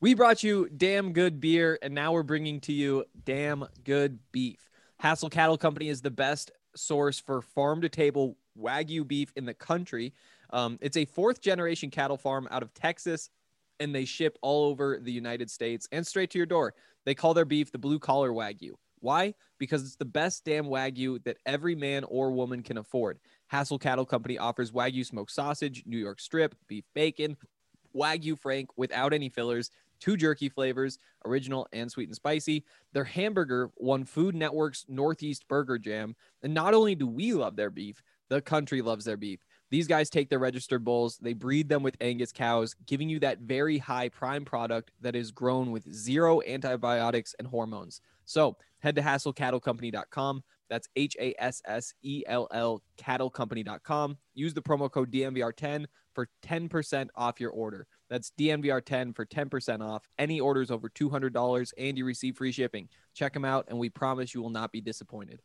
We brought you damn good beer, and now we're bringing to you damn good beef. Hassel Cattle Company is the best source for farm-to-table Wagyu beef in the country. It's a fourth-generation cattle farm out of Texas, and they ship all over the United States and straight to your door. They call their beef the blue-collar Wagyu. Why? Because it's the best damn Wagyu that every man or woman can afford. Hassel Cattle Company offers Wagyu smoked sausage, New York strip, beef bacon, Wagyu Frank without any fillers, 2 jerky flavors, original and sweet and spicy. Their hamburger won Food Network's Northeast Burger Jam. And not only do we love their beef, the country loves their beef. These guys take their registered bulls, they breed them with Angus cows, giving you that very high prime product that is grown with 0 antibiotics and hormones. So head to hasslecattlecompany.com. That's HASSELL cattlecompany.com. Use the promo code DNVR10 for 10% off your order. That's DNVR10 for 10% off any orders over $200, and you receive free shipping. Check them out, and we promise you will not be disappointed.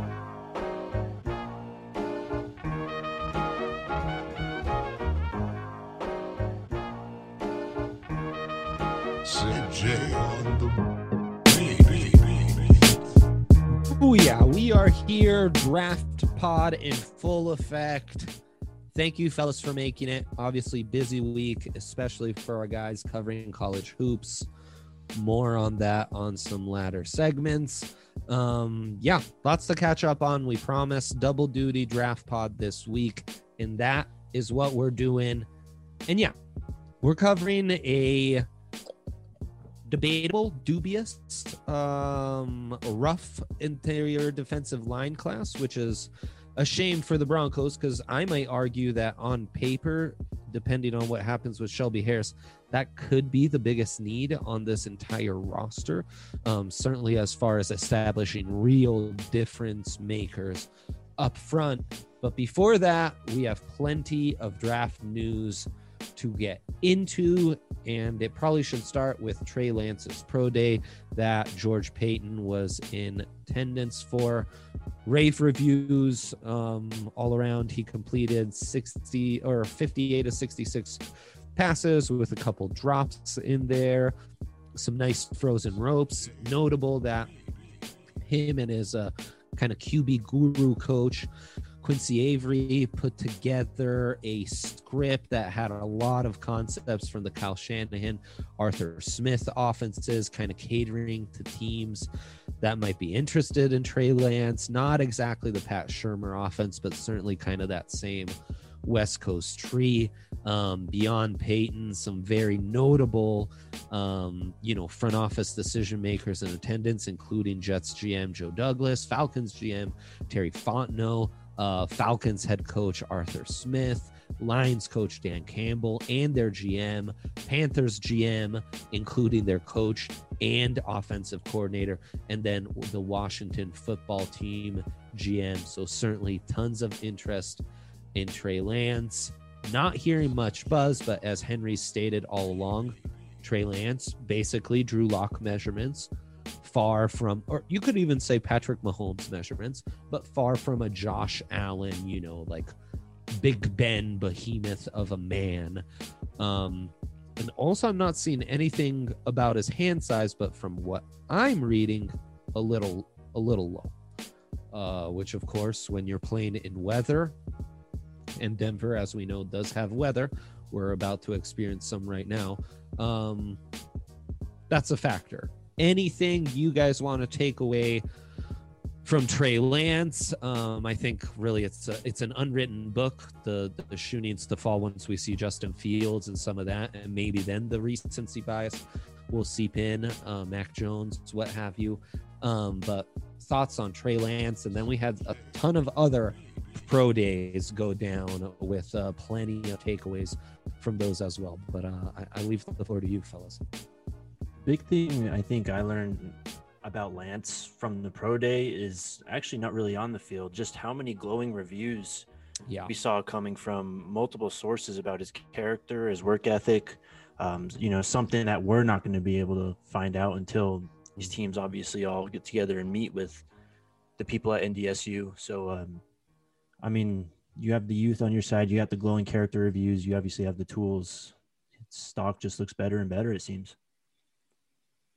Oh yeah, we are here, Draft Pod in full effect. Thank you, fellas, for making it. Obviously, busy week, especially for our guys covering college hoops. More on that on some latter segments. Yeah, lots to catch up on. We promise double duty Draft Pod this week, and that is what we're doing. And yeah, we're covering a debatable, dubious, rough interior defensive line class, which is a shame for the Broncos, because I might argue that on paper, depending on what happens with Shelby Harris, that could be the biggest need on this entire roster. Certainly as far as establishing real difference makers up front. But before that, we have plenty of draft news to get into, and it probably should start with Trey Lance's pro day that George Paton was in attendance for. Rave reviews all around. He completed 58 of 66 passes with a couple drops in there, some nice frozen ropes. Notable that him and his kind of QB guru coach Quincy Avery put together a script that had a lot of concepts from the Kyle Shanahan, Arthur Smith offenses, kind of catering to teams that might be interested in Trey Lance. Not exactly the Pat Shurmur offense, but certainly kind of that same West Coast tree. Beyond Peyton, some very notable, front office decision makers in attendance, including Jets GM Joe Douglas, Falcons GM Terry Fontenot, Falcons head coach Arthur Smith, Lions coach Dan Campbell, and their GM, Panthers GM, including their coach and offensive coordinator, and then the Washington football team GM. So certainly tons of interest in Trey Lance. Not hearing much buzz, but as Henry stated all along, Trey Lance basically Drew Lock measurements, far from, or you could even say Patrick Mahomes measurements, but far from a Josh Allen, like Big Ben behemoth of a man. And also I'm not seeing anything about his hand size, but from what I'm reading, a little low, which of course, when you're playing in weather, and Denver, as we know, does have weather, we're about to experience some right now, that's a factor. Anything you guys want to take away from Trey Lance? I think really it's an unwritten book. The shoe needs to fall once we see Justin Fields and some of that, and maybe then the recency bias will seep in, Mac Jones, what have you. But thoughts on Trey Lance, and then we had a ton of other pro days go down with plenty of takeaways from those as well. But I leave the floor to you, fellas. Big thing I think I learned about Lance from the pro day is actually not really on the field, just how many glowing reviews we saw coming from multiple sources about his character, his work ethic, something that we're not going to be able to find out until these teams obviously all get together and meet with the people at NDSU. So, you have the youth on your side, you have the glowing character reviews, you obviously have the tools. Its stock just looks better and better, it seems.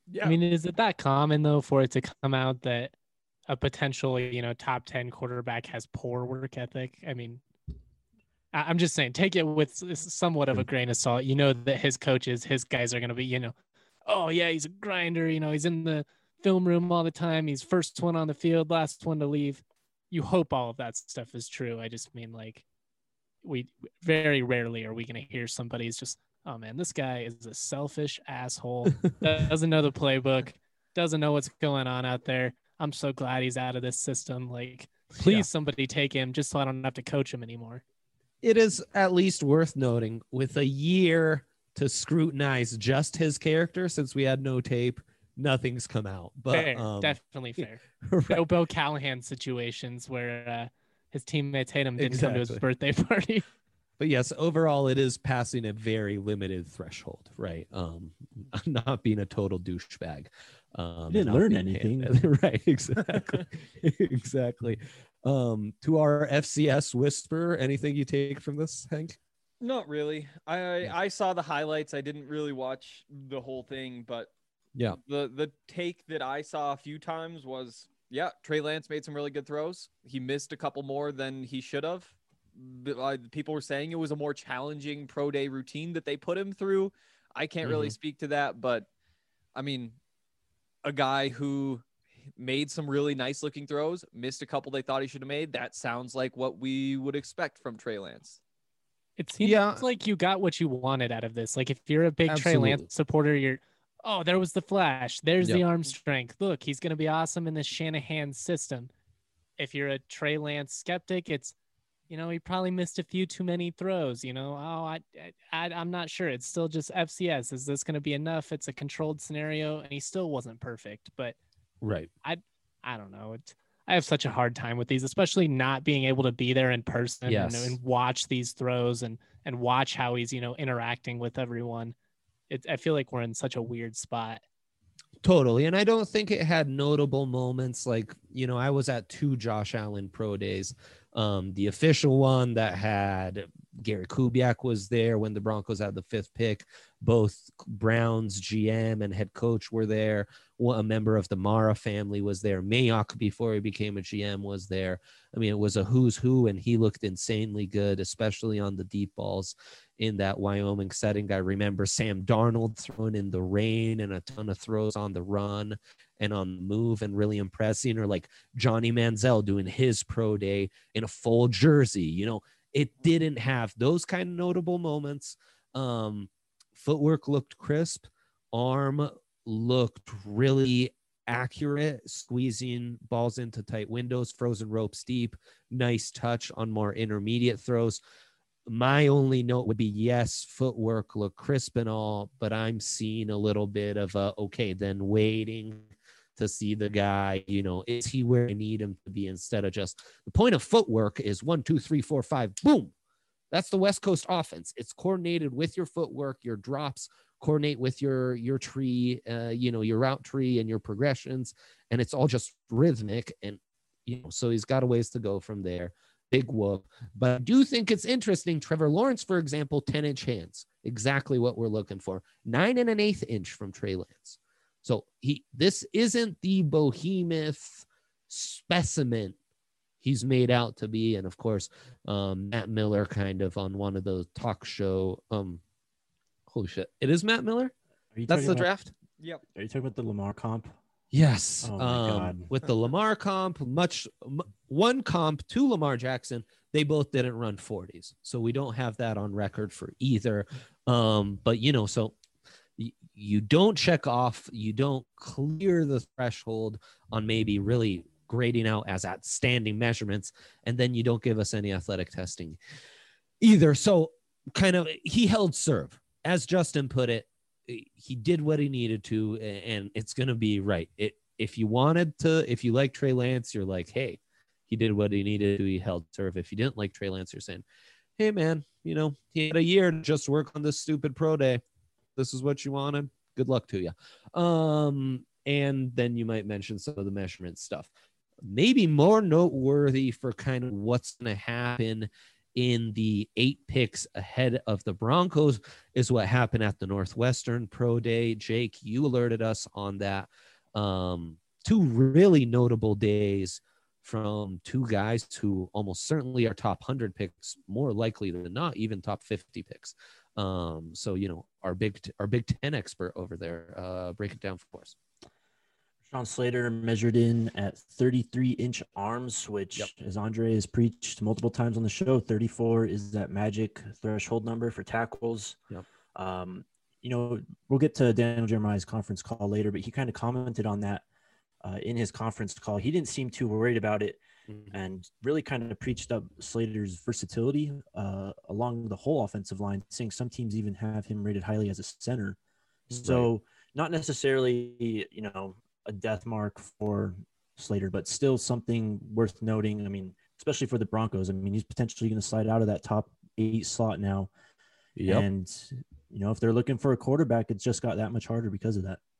Yeah. I mean, is it that common though for it to come out that a potential, top 10 quarterback has poor work ethic? I mean, I'm just saying, take it with somewhat of a grain of salt. You know that his coaches, his guys are going to be, oh yeah, he's a grinder. He's in the film room all the time. He's first one on the field, last one to leave. You hope all of that stuff is true. I just mean, like, we very rarely are we going to hear somebody's just, oh man, this guy is a selfish asshole. Doesn't know the playbook, doesn't know what's going on out there. I'm so glad he's out of this system. Like, please, somebody take him just so I don't have to coach him anymore. It is at least worth noting, with a year to scrutinize just his character, since we had no tape, nothing's come out. But fair, definitely fair. Right. No Bill Callahan situations where his teammates hate him, didn't come to his birthday party. But yes, overall, it is passing a very limited threshold, right? Not being a total douchebag. Didn't learn anything. Right, exactly. Exactly. To our FCS whisper, anything you take from this, Hank? Not really. I saw the highlights. I didn't really watch the whole thing, but yeah, the take that I saw a few times was, yeah, Trey Lance made some really good throws. He missed a couple more than he should have. People were saying it was a more challenging pro day routine that they put him through. I can't really speak to that, but I mean, a guy who made some really nice looking throws, missed a couple they thought he should have made. That sounds like what we would expect from Trey Lance. It seems like you got what you wanted out of this. Like, if you're a big Trey Lance supporter, you're, oh, there was the flash. There's the arm strength. Look, he's going to be awesome in this Shanahan system. If you're a Trey Lance skeptic, it's, he probably missed a few too many throws. I'm not sure. It's still just FCS. Is this going to be enough? It's a controlled scenario, and he still wasn't perfect. But right, I don't know. I have such a hard time with these, especially not being able to be there in person and watch these throws and watch how he's, interacting with everyone. I feel like we're in such a weird spot. Totally. And I don't think it had notable moments. Like, I was at 2 Josh Allen pro days. The official one that had Gary Kubiak was there when the Broncos had the 5th pick. Both Browns GM and head coach were there. A member of the Mara family was there. Mayock, before he became a GM, was there. I mean, it was a who's who, and he looked insanely good, especially on the deep balls in that Wyoming setting. I remember Sam Darnold throwing in the rain and a ton of throws on the run and on the move and really impressing, or like Johnny Manziel doing his pro day in a full jersey. It didn't have those kind of notable moments. Footwork looked crisp. Arm looked really accurate, squeezing balls into tight windows, frozen ropes deep, nice touch on more intermediate throws. My only note would be, yes, footwork looked crisp and all, but I'm seeing a little bit of then waiting to see the guy, is he where I need him to be, instead of just the point of footwork is 1, 2, 3, 4, 5, boom. That's the West Coast offense. It's coordinated with your footwork, your drops, coordinate with your tree, your route tree and your progressions. And it's all just rhythmic. And, so he's got a ways to go from there. Big whoop. But I do think it's interesting. Trevor Lawrence, for example, 10-inch hands, exactly what we're looking for. 9 1/8 inch from Trey Lance. So this isn't the behemoth specimen he's made out to be. And of course, Matt Miller kind of on one of those talk show. Holy shit. It is Matt Miller? That's the draft? Yep. Are you talking about the Lamar comp? Yes. Oh my God. With the Lamar comp, one comp to Lamar Jackson, they both didn't run 40s. So we don't have that on record for either. But, so you don't check off, you don't clear the threshold on maybe really grading out as outstanding measurements, and then you don't give us any athletic testing either. So kind of, he held serve. As Justin put it, he did what he needed to, and it's going to be right. If you like Trey Lance, you're like, hey, he did what he needed to, he held serve. If you didn't like Trey Lance, you're saying, hey man, he had a year to just work on this stupid pro day. This is what you wanted. Good luck to you. And then you might mention some of the measurement stuff. Maybe more noteworthy for kind of what's going to happen in the 8 picks ahead of the Broncos is what happened at the Northwestern Pro Day. Jake, you alerted us on that. 2 really notable days from 2 guys who almost certainly are top 100 picks, more likely than not, even top 50 picks. So, you know, our Big Ten expert over there, break it down for us. Sean Slater measured in at 33-inch arms, which, as Andre has preached multiple times on the show, 34 is that magic threshold number for tackles. Yep. You know, we'll get to Daniel Jeremiah's conference call later, but he kind of commented on that in his conference call. He didn't seem too worried about it, and really kind of preached up Slater's versatility along the whole offensive line, saying some teams even have him rated highly as a center. So not necessarily, you know, a death mark for Slater, but still something worth noting. I mean, especially for the Broncos. I mean, he's potentially going to slide out of that top 8 slot now. Yep. And, you know, if they're looking for a quarterback, it's just got that much harder because of that.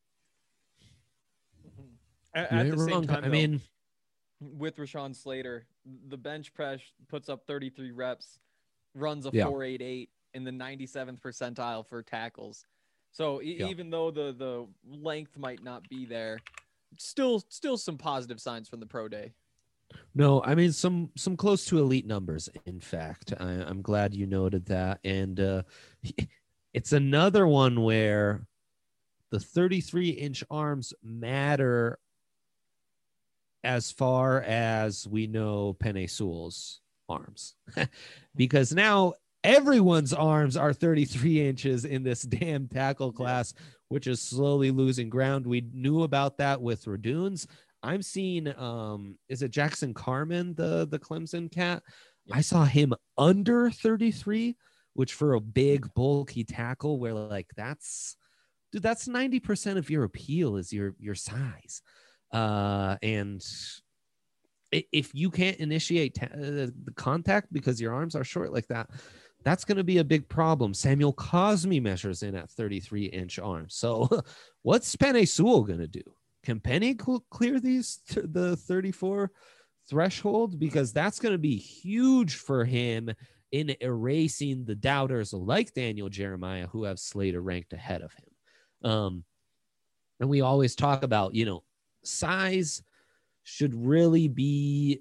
At the same time, I mean, with Rashawn Slater, the bench press puts up 33 reps, runs a 4.88 in the 97th percentile for tackles. So even though the length might not be there, still some positive signs from the pro day. No, I mean some close to elite numbers. In fact, I'm glad you noted that, and it's another one where the 33-inch arms matter as far as we know Penei Sewell's arms, because now everyone's arms are 33 inches in this damn tackle class, which is slowly losing ground. We knew about that with Raduns. I'm seeing, is it Jackson Carman, the Clemson cat? I saw him under 33, which for a big, bulky tackle, where like that's 90% of your appeal is your size. And if you can't initiate the contact because your arms are short like that, that's going to be a big problem. Samuel Cosmi measures in at 33-inch arms. So what's Penei Sewell going to do? Can Penny clear the 34 threshold? Because that's going to be huge for him in erasing the doubters like Daniel Jeremiah, who have Slater ranked ahead of him. And we always talk about, you know, size should really be,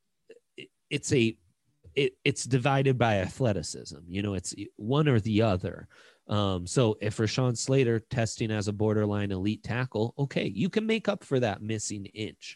it's divided by athleticism. You know, it's one or the other. So if Rashawn Slater testing as a borderline elite tackle, okay, you can make up for that missing inch.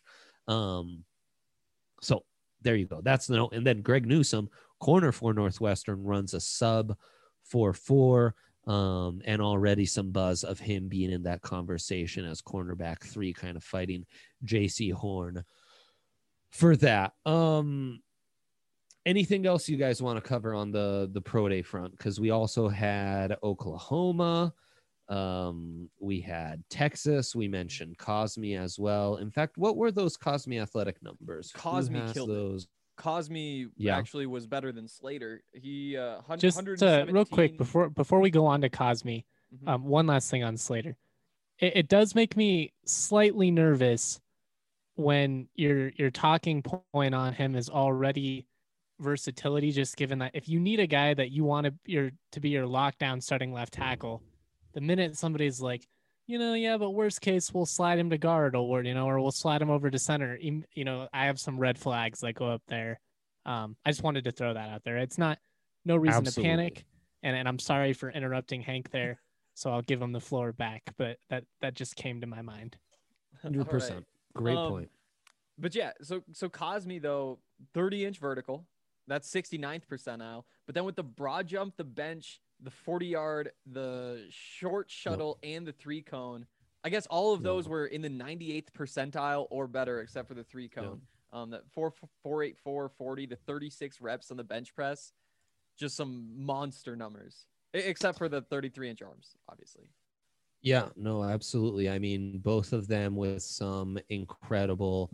So there you go. That's the note. And then Greg Newsome, corner for Northwestern, runs a sub 4.4, and already some buzz of him being in that conversation as cornerback 3, kind of fighting JC Horn for that. Anything else you guys want to cover on the pro day front? Because we also had Oklahoma. We had Texas. We mentioned Cosmi as well. In fact, what were those Cosmi athletic numbers? Cosmi killed those. Cosmi actually was better than Slater. He just real quick before we go on to Cosmi, one last thing on Slater. It does make me slightly nervous when your talking point on him is already versatility, just given that if you need a guy that you want to be your lockdown starting left tackle, the minute somebody's like, you know, yeah, but worst case we'll slide him to guard, or you know, or we'll slide him over to center, you know, I have some red flags that go up there. I just wanted to throw that out there. It's not no reason to panic, and I'm sorry for interrupting Hank there, so I'll give him the floor back, but that just came to my mind. 100%. Right. Great point. But yeah, so Cosmi though, 30-inch vertical, that's 69th percentile. But then with the broad jump, the bench, the 40-yard, the short shuttle, and the 3-cone, I guess all of those were in the 98th percentile or better, except for the 3-cone. That 4.84, 40 to 36 reps on the bench press, just some monster numbers, except for the 33-inch arms, obviously. Yeah, no, absolutely. I mean, both of them with some incredible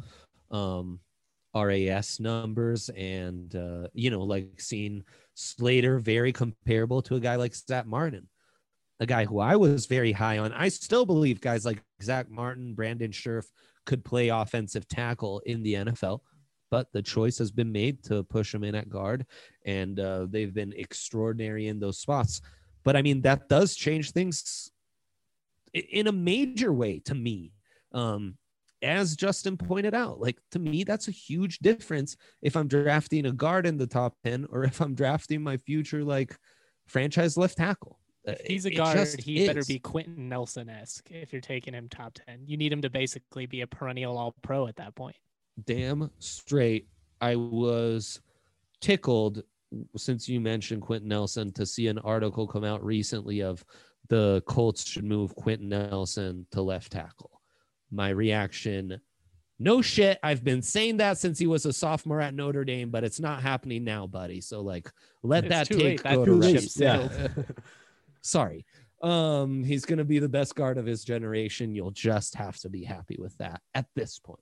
RAS numbers, and you know, like seeing Slater very comparable to a guy like Zach Martin, a guy who I was very high on. I still believe guys like Zach Martin, Brandon Scherf could play offensive tackle in the NFL. but the choice has been made to push him in at guard, and they've been extraordinary in those spots. But I mean, that does change things in a major way to me. As Justin pointed out, like, to me, that's a huge difference if I'm drafting a guard in the top 10 or if I'm drafting my future, like, franchise left tackle. If he's a guard, he better be Quentin Nelson-esque if you're taking him top 10. You need him to basically be a perennial all-pro at that point. Damn straight. I was tickled, since you mentioned Quentin Nelson, to see an article come out recently of the Colts should move Quentin Nelson to left tackle. My reaction, no shit. I've been saying that since he was a sophomore at Notre Dame, but it's not happening now, buddy. So, like, let that take go to rest. Yeah. Sorry. He's going to be the best guard of his generation. You'll just have to be happy with that at this point.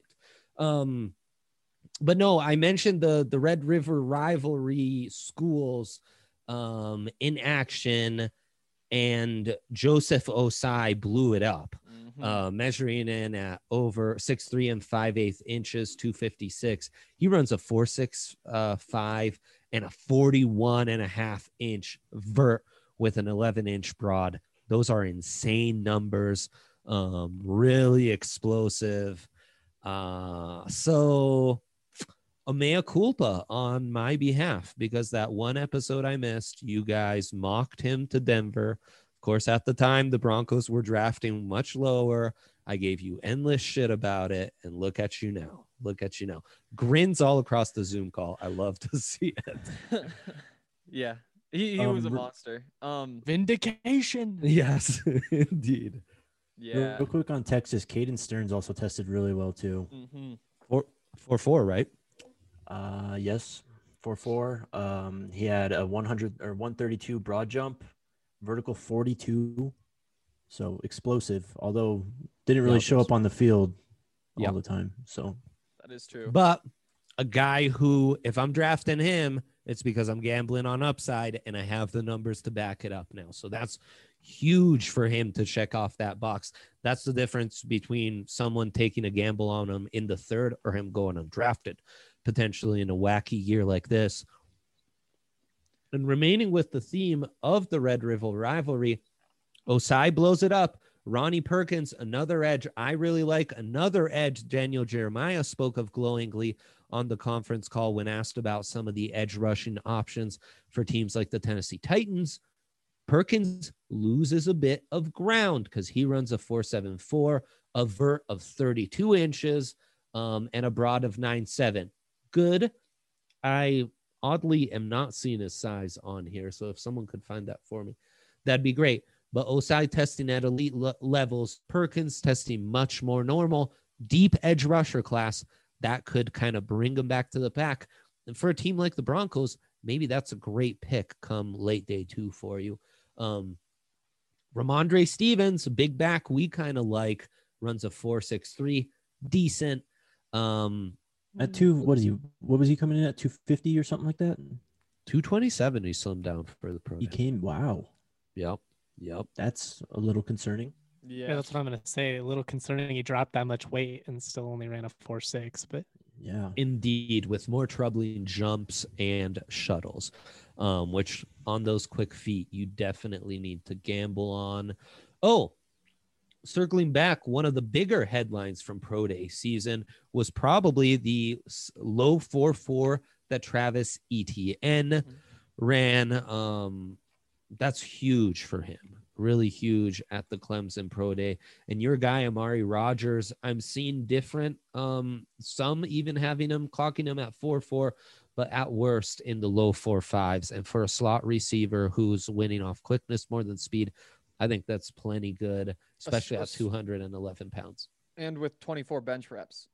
But no, I mentioned the Red River Rivalry schools in action, and Joseph Osai blew it up, measuring in at over 6'3" and 5/8 inches, 256. He runs a 4.65 and a 41.5-inch vert with an 11-inch broad. Those are insane numbers. Really explosive. So a mea culpa on my behalf, because that one episode I missed, you guys mocked him to Denver. Of course, at the time, the Broncos were drafting much lower. I gave you endless shit about it, and look at you now. Look at you now. Grins all across the Zoom call. I love to see it. Yeah, he was a monster. Vindication. Yes, indeed. Yeah. Real quick on Texas, Caden Stearns also tested really well too. 4.4, right? Yes, 4.4. He had a 100 or 132 broad jump, vertical 42, so explosive. Although didn't really show up on the field all the time. So that is true. But a guy who, if I'm drafting him, it's because I'm gambling on upside and I have the numbers to back it up now. So that's huge for him to check off that box. That's the difference between someone taking a gamble on him in the third or him going undrafted, potentially in a wacky year like this. And remaining with the theme of the Red River rivalry, Osai blows it up. Ronnie Perkins, another edge I really like. Another edge Daniel Jeremiah spoke of glowingly on the conference call when asked about some of the edge rushing options for teams like the Tennessee Titans. Perkins loses a bit of ground because he runs a 4.74, a vert of 32 inches, and a broad of 9.7. Good. I oddly am not seeing his size on here, so if someone could find that for me, that'd be great. But Osai testing at elite levels, Perkins testing much more normal, deep edge rusher class. That could kind of bring him back to the pack. And for a team like the Broncos, maybe that's a great pick come late day 2 for you. Ramondre Stevens, a big back we kind of like, runs a 4.63, decent. At 2, what was he coming in at, 250 or something like that? 227 he slimmed down for the pro. He came, wow. Yep. That's a little concerning. Yeah, that's what I'm going to say. A little concerning he dropped that much weight and still only ran a 4.6, but yeah, indeed, with more troubling jumps and shuttles, which on those quick feet you definitely need to gamble on. Oh, circling back, one of the bigger headlines from Pro Day season was probably the low 4.4 that Travis Etienne ran. That's huge for him. Really huge at the Clemson Pro Day. And your guy, Amari Rogers, I'm seeing different, some even having him, clocking him at 4.4, but at worst in the low 4.5s. And for a slot receiver who's winning off quickness more than speed, I think that's plenty good, especially at 211 pounds. And with 24 bench reps.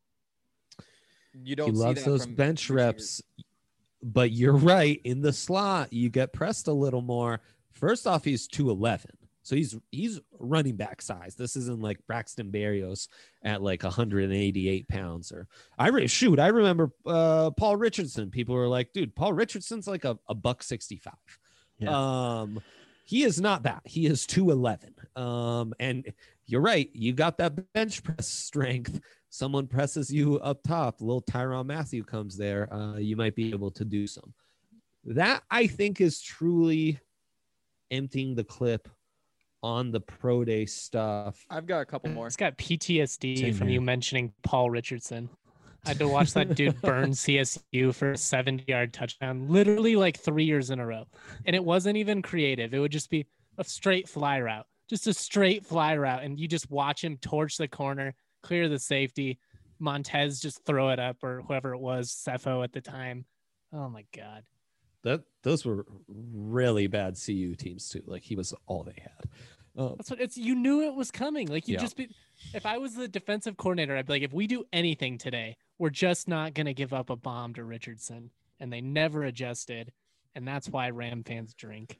You don't he see loves that those from bench receivers. reps. But you're right. In the slot, you get pressed a little more. First off, he's 211. So he's running back size. This isn't like Braxton Berrios at like 188 pounds. Or I remember Paul Richardson. People were like, dude, Paul Richardson's like a $165. Yeah. He is not that. He is 211. And you're right. You got that bench press strength. Someone presses you up top. Little Tyrann Mathieu comes there. You might be able to do some. That, I think, is truly emptying the clip on the pro day stuff. I've got a couple more. It's got PTSD Same from here. you mentioning Paul Richardson. I had to watch that dude burn CSU for a 70-yard touchdown, literally like 3 years in a row. And it wasn't even creative. It would just be a straight fly route, just a straight fly route. And you just watch him torch the corner, clear the safety. Montez just throw it up, or whoever it was, Cepho at the time. Oh my God. Those were really bad CU teams too. Like, he was all they had. That's what it's. You knew it was coming. Like, you Yeah. just be. If I was the defensive coordinator, I'd be like, if we do anything today, we're just not gonna give up a bomb to Richardson. And they never adjusted, and that's why Ram fans drink.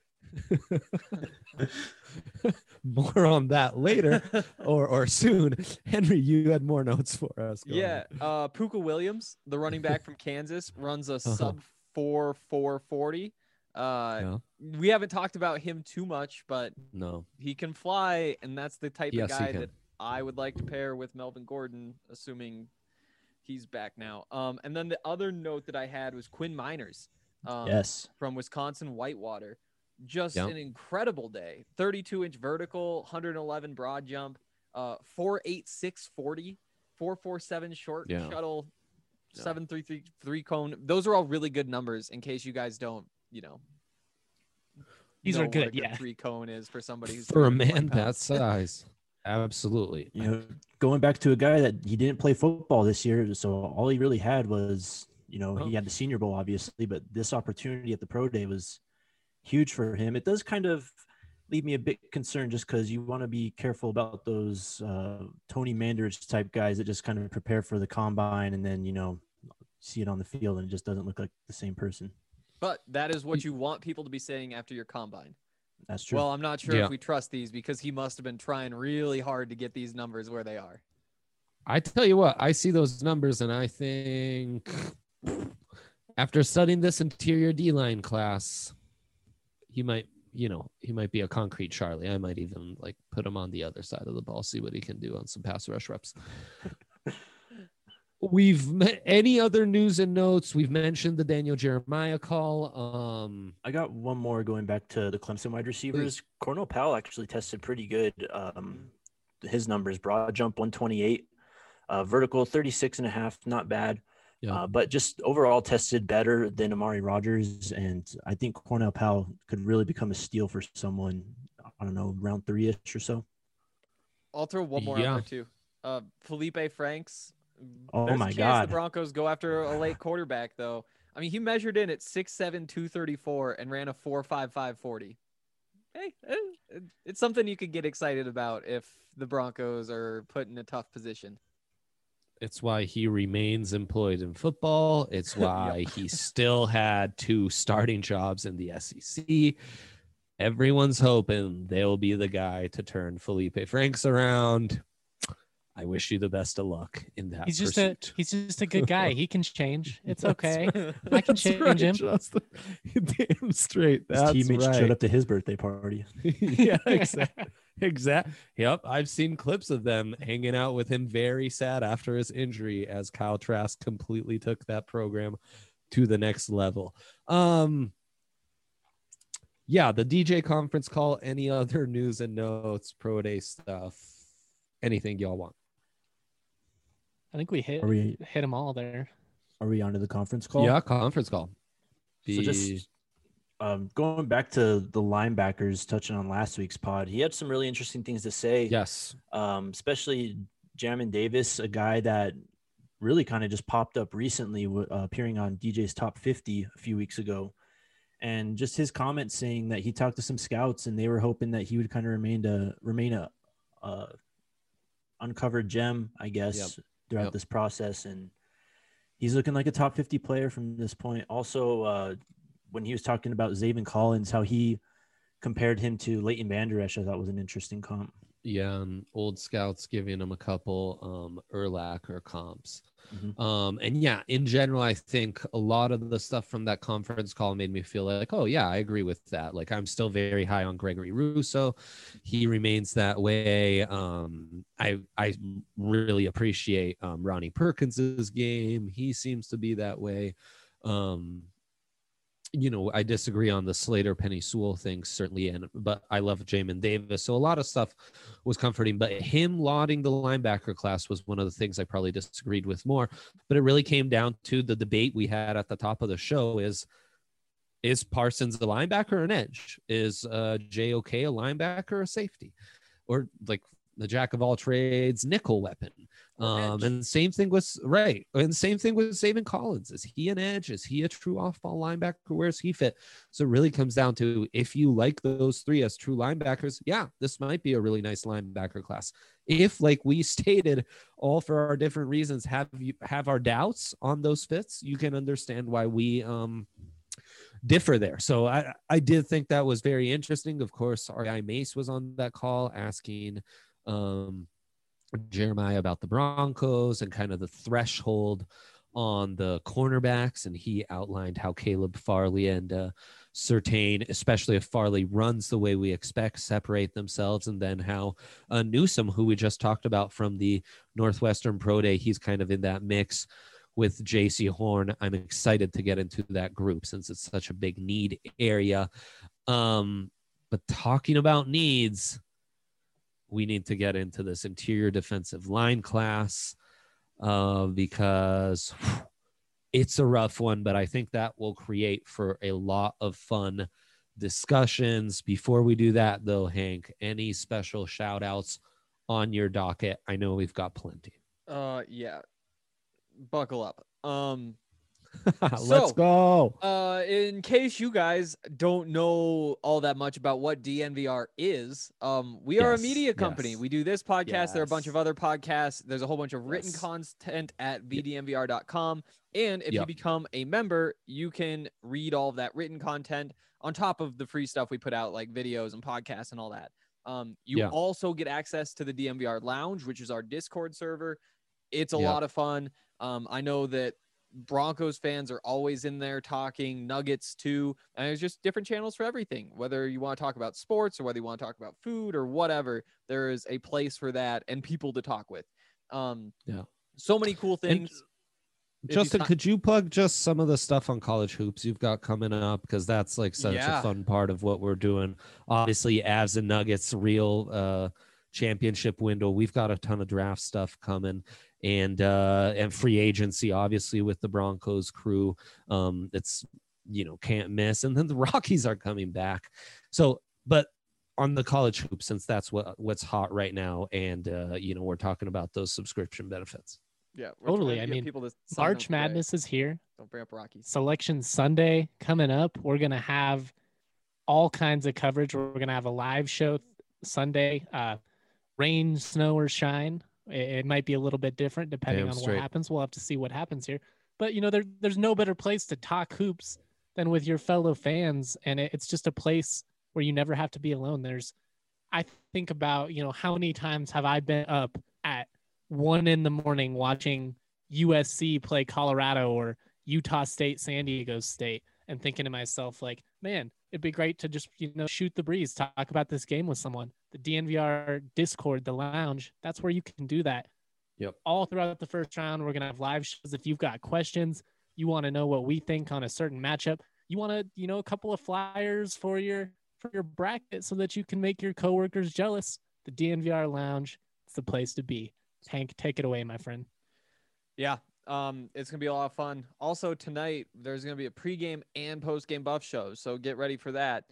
More on that later or soon. Henry, you had more notes for us. Go Yeah. ahead. Puka Williams, the running back from Kansas, runs a sub 4.40. Yeah. We haven't talked about him too much, but No. he can fly, and that's the type Yes, of he guy can. that I would like to pair with Melvin Gordon, assuming he's back now. And then the other note that I had was Quinn Miners. Yes. From Wisconsin Whitewater. Just Yeah. an incredible day. 32-inch vertical, 111 broad jump, 4.86 40, 4.47 short Yeah. shuttle, Yeah. 7.33 cone. Those are all really good numbers in case you guys don't, These know are what good, a good yeah. 3 cone is for somebody who's For a 320 man that pounds. size. Absolutely. You know, going back to a guy that he didn't play football this year, so all he really had was, he had the Senior Bowl, obviously, but this opportunity at the Pro Day was huge for him. It does kind of leave me a bit concerned, just because you want to be careful about those Tony Mandarich type guys that just kind of prepare for the combine and then, see it on the field and it just doesn't look like the same person. But that is what you want people to be saying after your combine. That's true. Well, I'm not sure Yeah. if we trust these because he must have been trying really hard to get these numbers where they are. I tell you what, I see those numbers and I think after studying this interior D-line class, he might be a concrete Charlie. I might even put him on the other side of the ball, see what he can do on some pass rush reps. Any other news and notes? We've mentioned the Daniel Jeremiah call. I got one more going back to the Clemson wide receivers. Cornell Powell actually tested pretty good. His numbers: broad jump 128, vertical 36.5, not bad. Yeah. But just overall tested better than Amari Rodgers, and I think Cornell Powell could really become a steal for someone. I don't know, round 3-ish or so. I'll throw one more out there too. Felipe Franks. Oh There's my a chance God. the Broncos go after a late quarterback, though. I mean, he measured in at 6'7", 234 and ran a 4.55 40. Hey, it's something you could get excited about if the Broncos are put in a tough position. It's why he remains employed in football. It's why he still had 2 starting jobs in the SEC. Everyone's hoping they'll be the guy to turn Felipe Franks around. I wish you the best of luck in that. He's just pursuit. a good guy. He can change. It's That's okay. right. I can That's change right, him. Justin. Damn straight. His That's teammates right. showed up to his birthday party. Yeah, exactly. Yep. I've seen clips of them hanging out with him very sad after his injury as Kyle Trask completely took that program to the next level. Yeah, the DJ conference call, any other news and notes, pro day stuff, anything y'all want. I think we hit them all there. Are we on to the conference call? Yeah, conference call. So just going back to the linebackers, touching on last week's pod, he had some really interesting things to say. Yes. Especially Jamin Davis, a guy that really kind of just popped up recently, appearing on DJ's Top 50 a few weeks ago. And just his comments saying that he talked to some scouts and they were hoping that he would kind of remain a uncovered gem, I guess, throughout this process. And he's looking like a top 50 player from this point. Also, when he was talking about Zaven Collins, how he compared him to Leighton Vander Esch, I thought was an interesting comp. Yeah, and old scouts giving him a couple Urlacher comps. And yeah, in general, I think a lot of the stuff from that conference call made me feel like, oh yeah, I agree with that. Like I'm still very high on Gregory Rousseau. He remains that way. I really appreciate Ronnie Perkins's game. He seems to be that way. I disagree on the Slater Penny Sewell thing, certainly, but I love Jamin Davis. So a lot of stuff was comforting, but him lauding the linebacker class was one of the things I probably disagreed with more. But it really came down to the debate we had at the top of the show is Parsons a linebacker or an edge? Is JOK a linebacker or a safety? Or like the jack of all trades nickel weapon. And same thing with Zaven Collins. Is he an edge? Is he a true off-ball linebacker? Where's he fit? So it really comes down to, if you like those three as true linebackers, yeah, this might be a really nice linebacker class. If, like we stated, all for our different reasons, have our doubts on those fits, you can understand why we differ there. So I did think that was very interesting. Of course, R.I. Mace was on that call asking Jeremiah about the Broncos and kind of the threshold on the cornerbacks, and he outlined how Caleb Farley and Surtain, especially if Farley runs the way we expect, separate themselves, and then how Newsome, who we just talked about from the Northwestern Pro Day, he's kind of in that mix with JC Horn. I'm excited to get into that group since it's such a big need area. But talking about needs, we need to get into this interior defensive line class because it's a rough one, but I think that will create for a lot of fun discussions. Before we do that, though, Hank, any special shout outs on your docket? I know we've got plenty. Yeah. Buckle up. Let's go. In case you guys don't know all that much about what DNVR is, we are a media company. Yes. We do this podcast. Yes. There are a bunch of other podcasts. There's a whole bunch of written content at vdnvr.com. And if you become a member, you can read all of that written content on top of the free stuff we put out, like videos and podcasts and all that. You also get access to the DNVR Lounge, which is our Discord server. It's a lot of fun. I know that Broncos fans are always in there talking, Nuggets too, and there's just different channels for everything. Whether you want to talk about sports or whether you want to talk about food or whatever, there is a place for that and people to talk with. So many cool things. And Justin, could you plug just some of the stuff on college hoops you've got coming up? Because that's like such a fun part of what we're doing. Obviously, Avs and Nuggets, real championship window. We've got a ton of draft stuff coming. And free agency, obviously, with the Broncos crew, it's, can't miss. And then the Rockies are coming back. So, but on the college hoop, since that's what's hot right now, and we're talking about those subscription benefits. Yeah, totally. I mean, March Madness is here. Don't bring up Rockies. Selection Sunday coming up. We're gonna have all kinds of coverage. We're gonna have a live show Sunday. Rain, snow, or shine. It might be a little bit different depending on what happens. We'll have to see what happens here. But, there's no better place to talk hoops than with your fellow fans. And it's just a place where you never have to be alone. I think about, how many times have I been up at 1 a.m. watching USC play Colorado or Utah State, San Diego State, and thinking to myself, like, man, it'd be great to just, shoot the breeze, talk about this game with someone. The DNVR Discord, the lounge, that's where you can do that. Yep. All throughout the first round, we're going to have live shows. If you've got questions, you want to know what we think on a certain matchup, you want to, a couple of flyers for your bracket so that you can make your coworkers jealous. The DNVR lounge, it's the place to be. Hank, take it away, my friend. Yeah. It's going to be a lot of fun. Also tonight, there's going to be a pregame and postgame buff show. So get ready for that.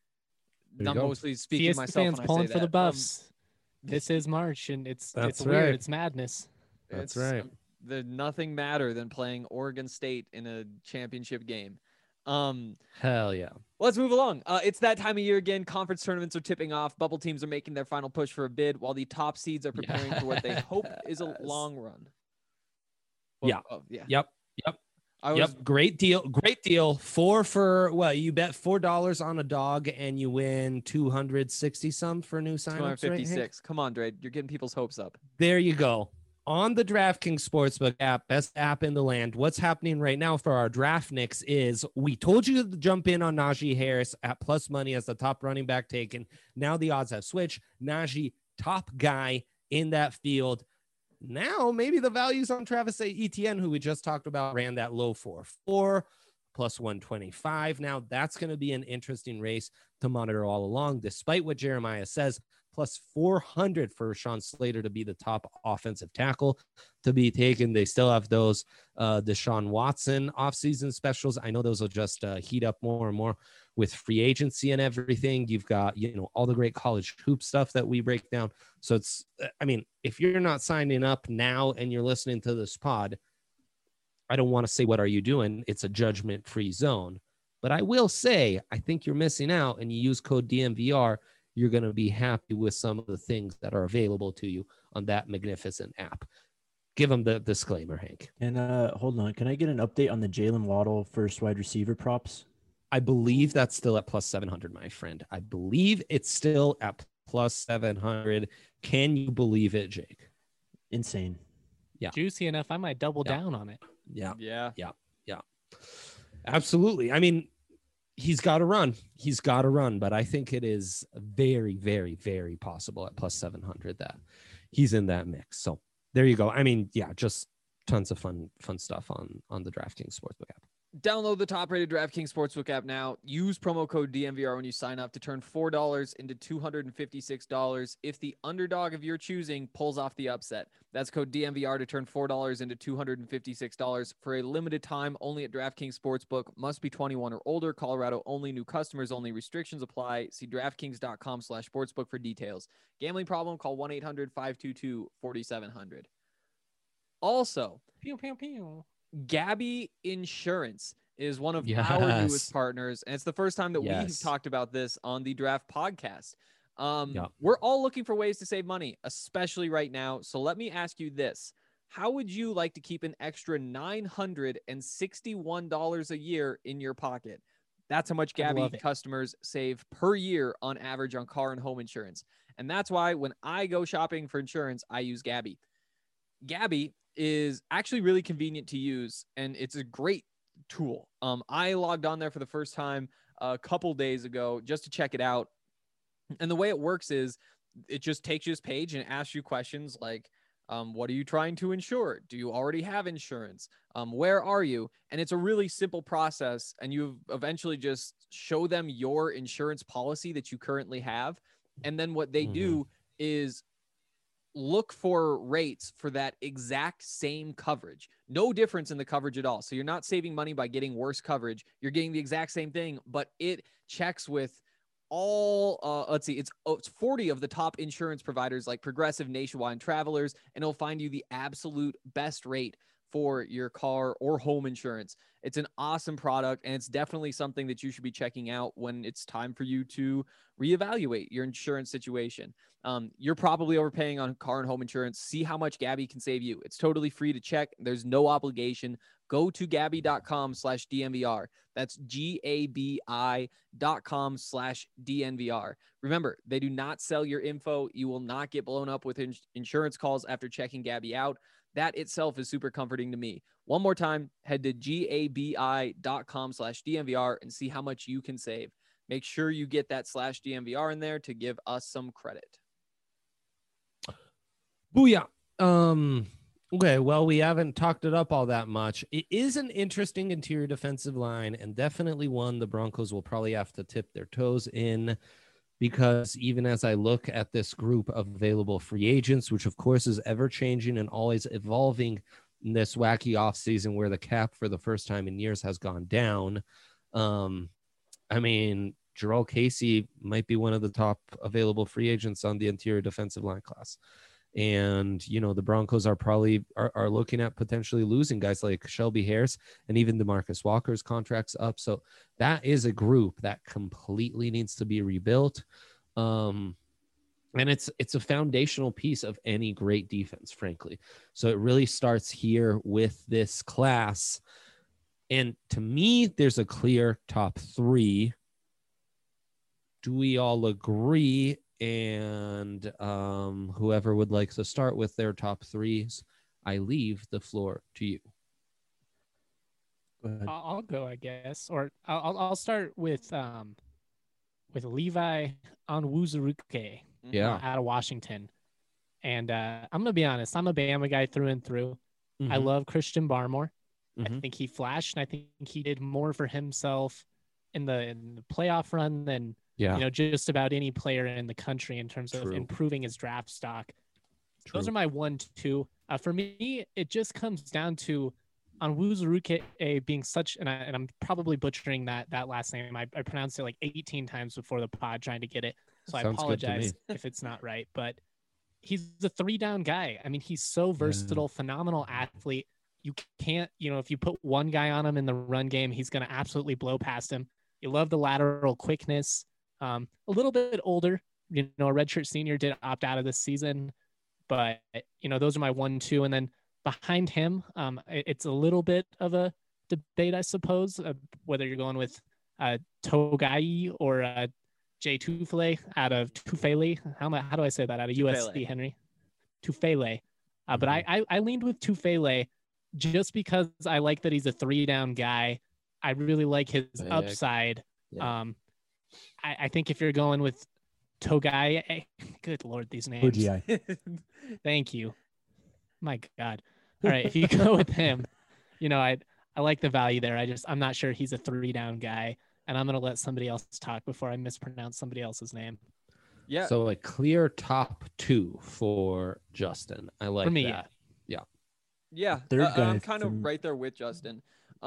I'm mostly speaking Fiesta myself fans when I pulling say for that. the Buffs. This is March, and it's right. weird. It's madness. That's right. There's nothing madder than playing Oregon State in a championship game. Hell yeah. Let's move along. It's that time of year again. Conference tournaments are tipping off. Bubble teams are making their final push for a bid, while the top seeds are preparing for what they hope is a long run. Yep. Great deal. 4 for what? You bet $4 on a dog and you win 260 some for new signups. 256. Right, come on, Dre. You're getting people's hopes up. There you go. On the DraftKings Sportsbook app, best app in the land, what's happening right now for our draft nicks is we told you to jump in on Najee Harris at plus money as the top running back taken. Now the odds have switched. Najee, top guy in that field. Now maybe the value's on Travis Etienne, who we just talked about, ran that low 4.4 plus 125. Now that's going to be an interesting race to monitor all along, despite what Jeremiah says. Plus 400 for Sean Slater to be the top offensive tackle to be taken. They still have those Deshaun Watson offseason specials. I know those will just heat up more and more with free agency and everything. You've got, all the great college hoop stuff that we break down. So it's, if you're not signing up now and you're listening to this pod, I don't want to say, what are you doing? It's a judgment-free zone. But I will say, I think you're missing out, and you use code DNVR, you're going to be happy with some of the things that are available to you on that magnificent app. Give them the disclaimer, Hank. And hold on. Can I get an update on the Jalen Waddle first wide receiver props? I believe that's still at plus 700, my friend. I believe it's still at plus 700. Can you believe it, Jake? Insane. Yeah. Juicy enough. I might double down on it. Yeah. Absolutely. He's got to run, but I think it is very, very, very possible at plus 700 that he's in that mix. So there you go. Just tons of fun stuff on the DraftKings Sportsbook app. Download the top-rated DraftKings Sportsbook app now. Use promo code DNVR when you sign up to turn $4 into $256 if the underdog of your choosing pulls off the upset. That's code DNVR to turn $4 into $256 for a limited time only at DraftKings Sportsbook. Must be 21 or older. Colorado only. New customers only. Restrictions apply. See DraftKings.com/sportsbook for details. Gambling problem? Call 1-800-522-4700. Also, pew, pew, pew. Gabi Insurance is one of our newest partners, and it's the first time that we've talked about this on the Draft Podcast. We're all looking for ways to save money, especially right now. So let me ask you this. How would you like to keep an extra $961 a year in your pocket? That's how much Gabi customers save per year on average on car and home insurance. And that's why when I go shopping for insurance, I use Gabi. Gabi is actually really convenient to use, and it's a great tool. I logged on there for the first time a couple days ago just to check it out. And the way it works is it just takes you this page and asks you questions like, what are you trying to insure? Do you already have insurance? Where are you? And it's a really simple process. And you eventually just show them your insurance policy that you currently have. And then what they do is look for rates for that exact same coverage. No difference in the coverage at all. So you're not saving money by getting worse coverage. You're getting the exact same thing, but it checks with all, it's 40 of the top insurance providers like Progressive, Nationwide, and Travelers, and it'll find you the absolute best rate for your car or home insurance. It's an awesome product, and it's definitely something that you should be checking out when it's time for you to reevaluate your insurance situation. You're probably overpaying on car and home insurance. See how much Gabi can save you. It's totally free to check. There's no obligation. Go to Gabi.com/DNVR. That's GABI.com/DNVR. Remember, they do not sell your info. You will not get blown up with insurance calls after checking Gabi out. That itself is super comforting to me. One more time, head to GABI.com/DNVR and see how much you can save. Make sure you get that /DNVR in there to give us some credit. Booyah. Okay, well, we haven't talked it up all that much. It is an interesting interior defensive line, and definitely one the Broncos will probably have to tip their toes in, because even as I look at this group of available free agents, which of course is ever changing and always evolving in this wacky offseason where the cap for the first time in years has gone down. Jurrell Casey might be one of the top available free agents on the interior defensive line class. And, the Broncos are probably are looking at potentially losing guys like Shelby Harris and even DeMarcus Walker's contracts up. So that is a group that completely needs to be rebuilt. And it's a foundational piece of any great defense, frankly. So it really starts here with this class. And to me, there's a clear top three. Do we all agree? And whoever would like to start with their top threes, I leave the floor to you. Go ahead. I'll go, I guess, or I'll start with Levi Onwuzurike Yeah. out of Washington. And I'm going to be honest, I'm a Bama guy through and through. I love Christian Barmore. I think he flashed, and I think he did more for himself in the playoff run than just about any player in the country in terms of improving his draft stock. Those are my 1-2. For me, it just comes down to Onwuzurike being such, and I'm probably butchering that last name. I pronounced it like 18 times before the pod trying to get it, so I apologize if it's not right. But he's a 3-down guy. I mean, he's so versatile, phenomenal athlete. You can't, if you put one guy on him in the run game, he's going to absolutely blow past him. You love the lateral quickness. A little bit older, a redshirt senior did opt out of this season, but those are my 1-2, and then behind him, it's a little bit of a debate, I suppose, whether you're going with Togai or Jay Tufele out of Tufele. How do I say that? Out of USC, Henry? Tufele. But I leaned with Tufele just because I like that he's a 3-down guy. I really like his upside. Yeah. I think if you're going with Togai, good Lord, these names. Thank you. My God. All right. If you go with him, I like the value there. I'm not sure he's a 3-down guy, and I'm going to let somebody else talk before I mispronounce somebody else's name. Yeah. So a clear top 2 for Justin. I like for me, that. Yeah. Third guy I'm kind of right there with Justin.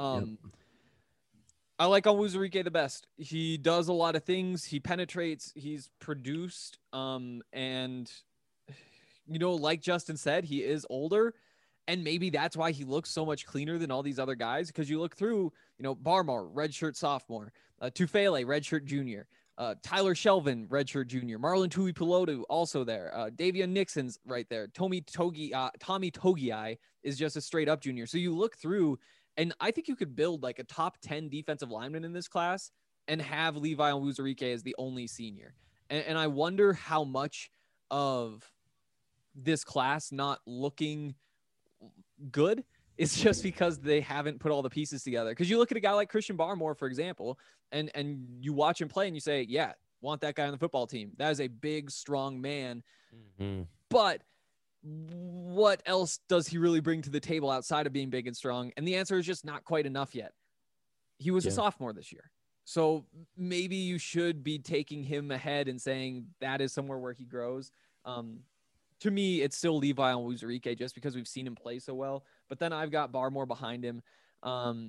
I like Onwuzurike the best. He does a lot of things. He penetrates. He's produced. And like Justin said, he is older, and maybe that's why he looks so much cleaner than all these other guys. Because you look through, Barmore, redshirt sophomore, Tufele, redshirt junior, Tyler Shelvin, redshirt junior, Marlon Tuipulotu also there, Davion Nixon's right there, Tommy Togiai is just a straight up junior. So you look through, and I think you could build like a top 10 defensive lineman in this class and have Levi Onwuzurike as the only senior. And I wonder how much of this class not looking good is just because they haven't put all the pieces together. Because you look at a guy like Christian Barmore, for example, and you watch him play and you say, yeah, want that guy on the football team. That is a big, strong man. But what else does he really bring to the table outside of being big and strong? And the answer is just not quite enough yet. He was a sophomore this year. So maybe you should be taking him ahead and saying that is somewhere where he grows. To me, it's still Levi Onwuzurike just because we've seen him play so well. But then I've got Barmore behind him. And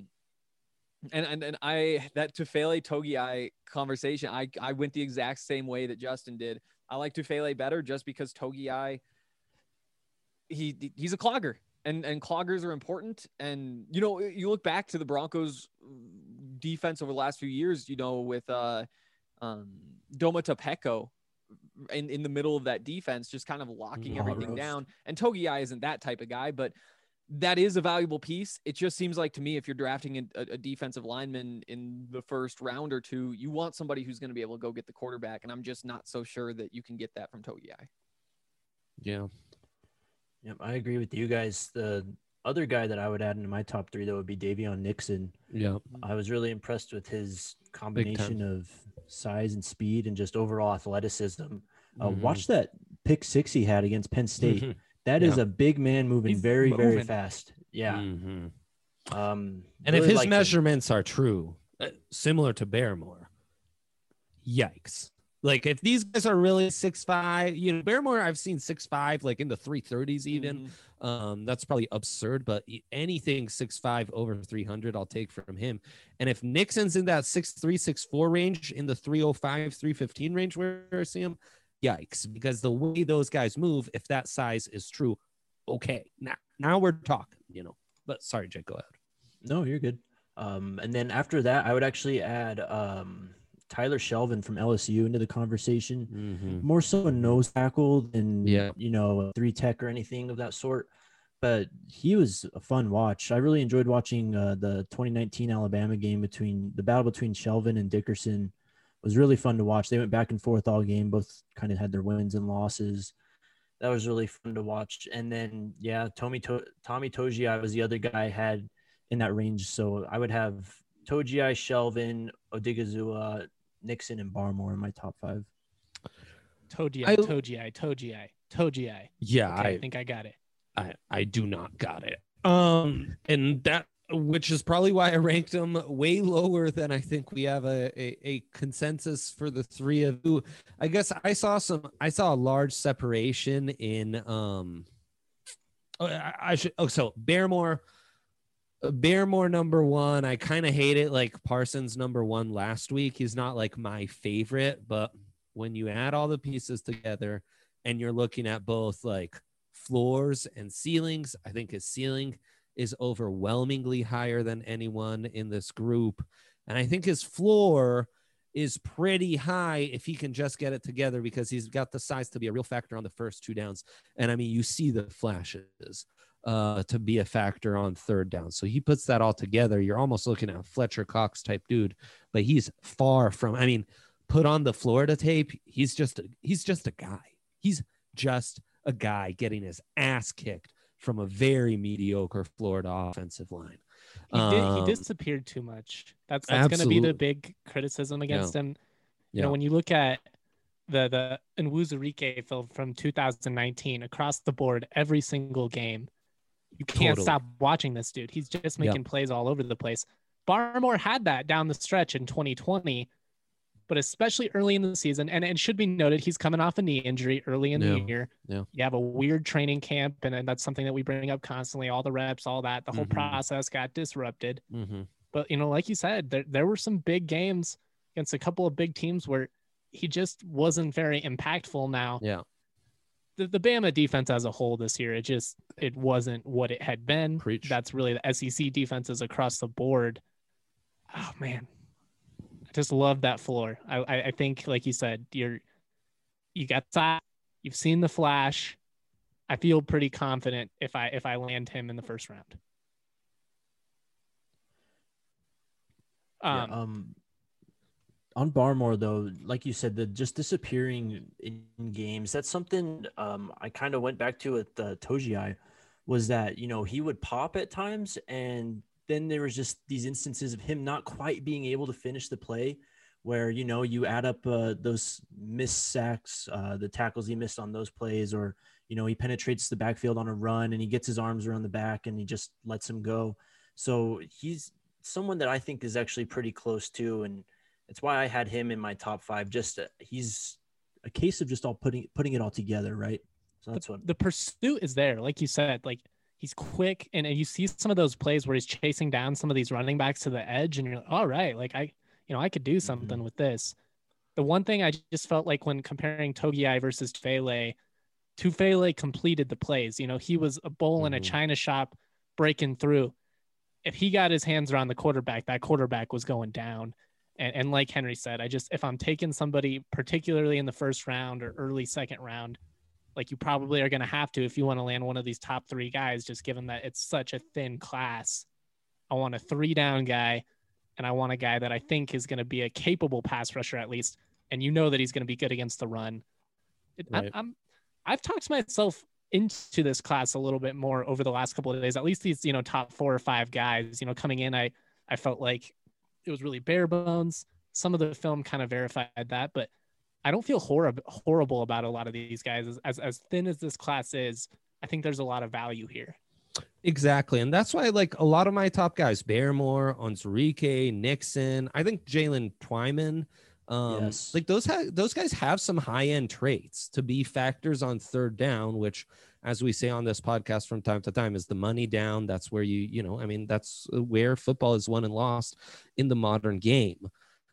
that Tufele Togiai conversation, I went the exact same way that Justin did. I like Tufele better just because Togiai, he's a clogger, and cloggers are important. And, you look back to the Broncos defense over the last few years, with Doma Topeko in the middle of that defense, just kind of locking everything down. And Togiai isn't that type of guy, but that is a valuable piece. It just seems like to me, if you're drafting a defensive lineman in the first round or two, you want somebody who's going to be able to go get the quarterback. And I'm just not so sure that you can get that from Togiai. Yeah. Yep, I agree with you guys. The other guy that I would add into my top 3, though, would be Davion Nixon. Yeah. I was really impressed with his combination of size and speed and just overall athleticism. Watch that pick 6 he had against Penn State. That is a big man moving very fast. Yeah. And really if his measurements are true, similar to Barmore, yikes. Like if these guys are really 6'5", Barmore, I've seen 6'5", like in the 330s even. That's probably absurd, but anything 6'5" over 300, I'll take from him. And if Nixon's in that 6'3", 6'4" range, in the 305, 315 range where I see him, yikes, because the way those guys move, if that size is true, okay, now we're talking, But sorry, Jake, go ahead. No, you're good. And then after that, I would actually add Tyler Shelvin from LSU into the conversation. More so a nose tackle than a 3-tech or anything of that sort. But he was a fun watch. I really enjoyed watching the 2019 Alabama game the battle between Shelvin and Dickerson. Was really fun to watch. They went back and forth all game. Both kind of had their wins and losses. that was really fun to watch. And then, yeah, Tommy Togiai was the other guy I had in that range. So I would have Togiai, Shelvin, Odigizua, Nixon, and Barmore in my top 5. Togiai. Yeah, okay, I think I got it. I do not got it. And that, which is probably why I ranked them way lower than I think we have a consensus for the three of you. I guess I saw a large separation in so Barrymore number 1. I kind of hate it, like Parsons number 1 last week. He's not like my favorite, but when you add all the pieces together and you're looking at both like floors and ceilings, I think his ceiling is overwhelmingly higher than anyone in this group. And I think his floor is pretty high if he can just get it together, because he's got the size to be a real factor on the first 2 downs. And I mean, you see the flashes to be a factor on 3rd down. So he puts that all together. You're almost looking at a Fletcher Cox type dude, but he's far from, I mean, put on the Florida tape. He's just a guy. He's just a guy getting his ass kicked from a very mediocre Florida offensive line. He disappeared too much. That's going to be the big criticism against him. You know, when you look at the Nwuzurike film from 2019 across the board, every single game, you can't stop watching this dude. He's just making plays all over the place. Barmore had that down the stretch in 2020, but especially early in the season. And it should be noted, he's coming off a knee injury early in the year. Yeah. You have a weird training camp, and that's something that we bring up constantly, all the reps, all that. The whole process got disrupted. But, you know, like you said, there were some big games against a couple of big teams where he just wasn't very impactful. Now, the Bama defense as a whole this year, it wasn't what it had been. Preach. That's really the SEC defenses across the board. Oh, man. I just love that floor. I think, like you said, you got that. You've seen the flash. I feel pretty confident if I land him in the first round. On Barmore, though, like you said, the just disappearing in games, that's something I kind of went back to with Togiai, was that, you know, he would pop at times, and then there was just these instances of him not quite being able to finish the play, where, you know, you add up those missed sacks, the tackles he missed on those plays, or, you know, he penetrates the backfield on a run and he gets his arms around the back and he just lets him go. So he's someone that I think is actually pretty close to, and it's why I had him in my top 5. Just he's a case of just all putting it all together, right? So that's what the pursuit is there, like you said. Like, he's quick, and you see some of those plays where he's chasing down some of these running backs to the edge, and you're like, all right, like I could do something with this. The one thing I just felt like when comparing Togiai versus Tufele completed the plays. You know, he was a bull in a china shop breaking through. If he got his hands around the quarterback, that quarterback was going down. And like Henry said, if I'm taking somebody particularly in the first round or early second round, like you probably are going to have to, if you want to land one of these top 3 guys, just given that it's such a thin class. I want a 3-down guy, and I want a guy that I think is going to be a capable pass rusher at least. And you know that he's going to be good against the run. Right. I've talked myself into this class a little bit more over the last couple of days, at least these, you know, top 4 or 5 guys, you know, coming in, I felt like it was really bare bones. Some of the film kind of verified that, but I don't feel horrible about a lot of these guys. As thin as this class is, I think there's a lot of value here. Exactly. And that's why, like, a lot of my top guys, Barrymore, Onwuzurike, Nixon, I think Jalen Twyman, like those guys have some high-end traits to be factors on 3rd down, which, as we say on this podcast from time to time, is the money down. That's where that's where football is won and lost in the modern game.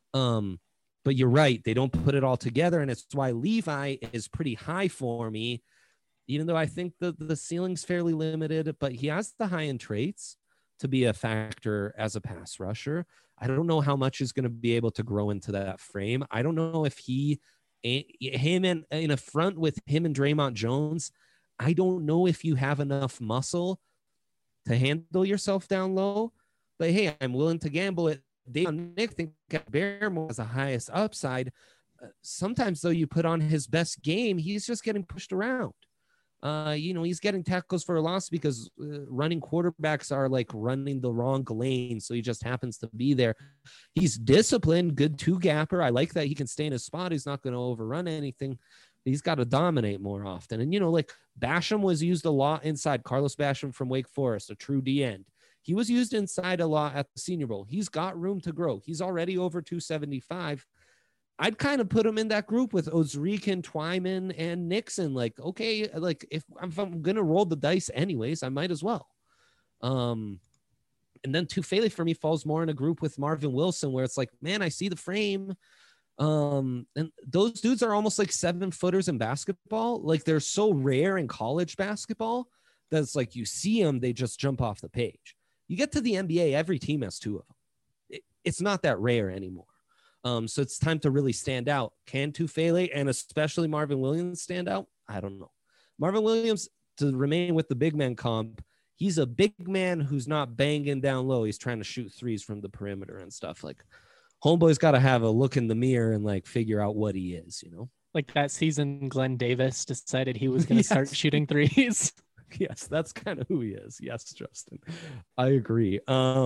But you're right. They don't put it all together. And it's why Levi is pretty high for me, even though I think the ceiling's fairly limited, but he has the high-end traits to be a factor as a pass rusher. I don't know how much is going to be able to grow into that frame. I don't know if him and in a front with him and Draymond Jones, I don't know if you have enough muscle to handle yourself down low. But hey, I'm willing to gamble it. Nick think Barrymore has the highest upside. Sometimes though, you put on his best game, he's just getting pushed around. He's getting tackles for a loss because running quarterbacks are like running the wrong lane. So he just happens to be there. He's disciplined, good two gapper. I like that he can stay in his spot. He's not going to overrun anything. He's got to dominate more often. And, like Basham was used a lot inside. Carlos Basham from Wake Forest, a true D end. He was used inside a lot at the Senior Bowl. He's got room to grow. He's already over 275. I'd kind of put him in that group with Ozrican, Twyman, and Nixon. Like, okay, like if I'm going to roll the dice anyways, I might as well. And then Tufele for me falls more in a group with Marvin Wilson, where it's like, man, I see the frame. And those dudes are almost like 7-footers in basketball. Like they're so rare in college basketball that it's like you see them, they just jump off the page. You get to the NBA, every team has two of them. It's not that rare anymore. So it's time to really stand out. Can Tufele and especially Marvin Williams stand out? I don't know. Marvin Williams, to remain with the big man comp, he's a big man who's not banging down low. He's trying to shoot threes from the perimeter and stuff. Like, homeboy's got to have a look in the mirror and like figure out what he is, Like that season, Glenn Davis decided he was going to start shooting threes. Yes, that's kind of who he is. Yes, Justin, I agree.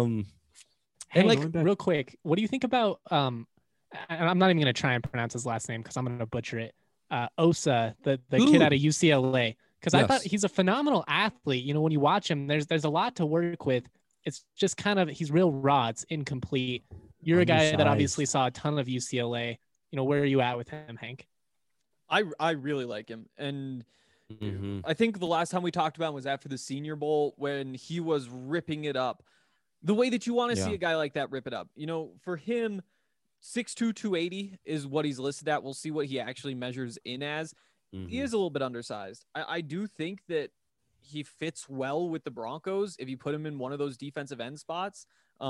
Hey, like real quick, what do you think about I'm not even going to try and pronounce his last name because I'm going to butcher it. Osa, the kid out of UCLA, because I thought he's a phenomenal athlete. When you watch him, there's a lot to work with. It's just kind of, he's real raw. It's incomplete. You're a guy that obviously saw a ton of UCLA. Where are you at with him, Hank? I really like him. And I think the last time we talked about him was after the Senior Bowl when he was ripping it up. The way that you want to see a guy like that rip it up. For him, 6'2", 280 is what he's listed at. We'll see what he actually measures in as. He is a little bit undersized. I do think that he fits well with the Broncos if you put him in one of those defensive end spots,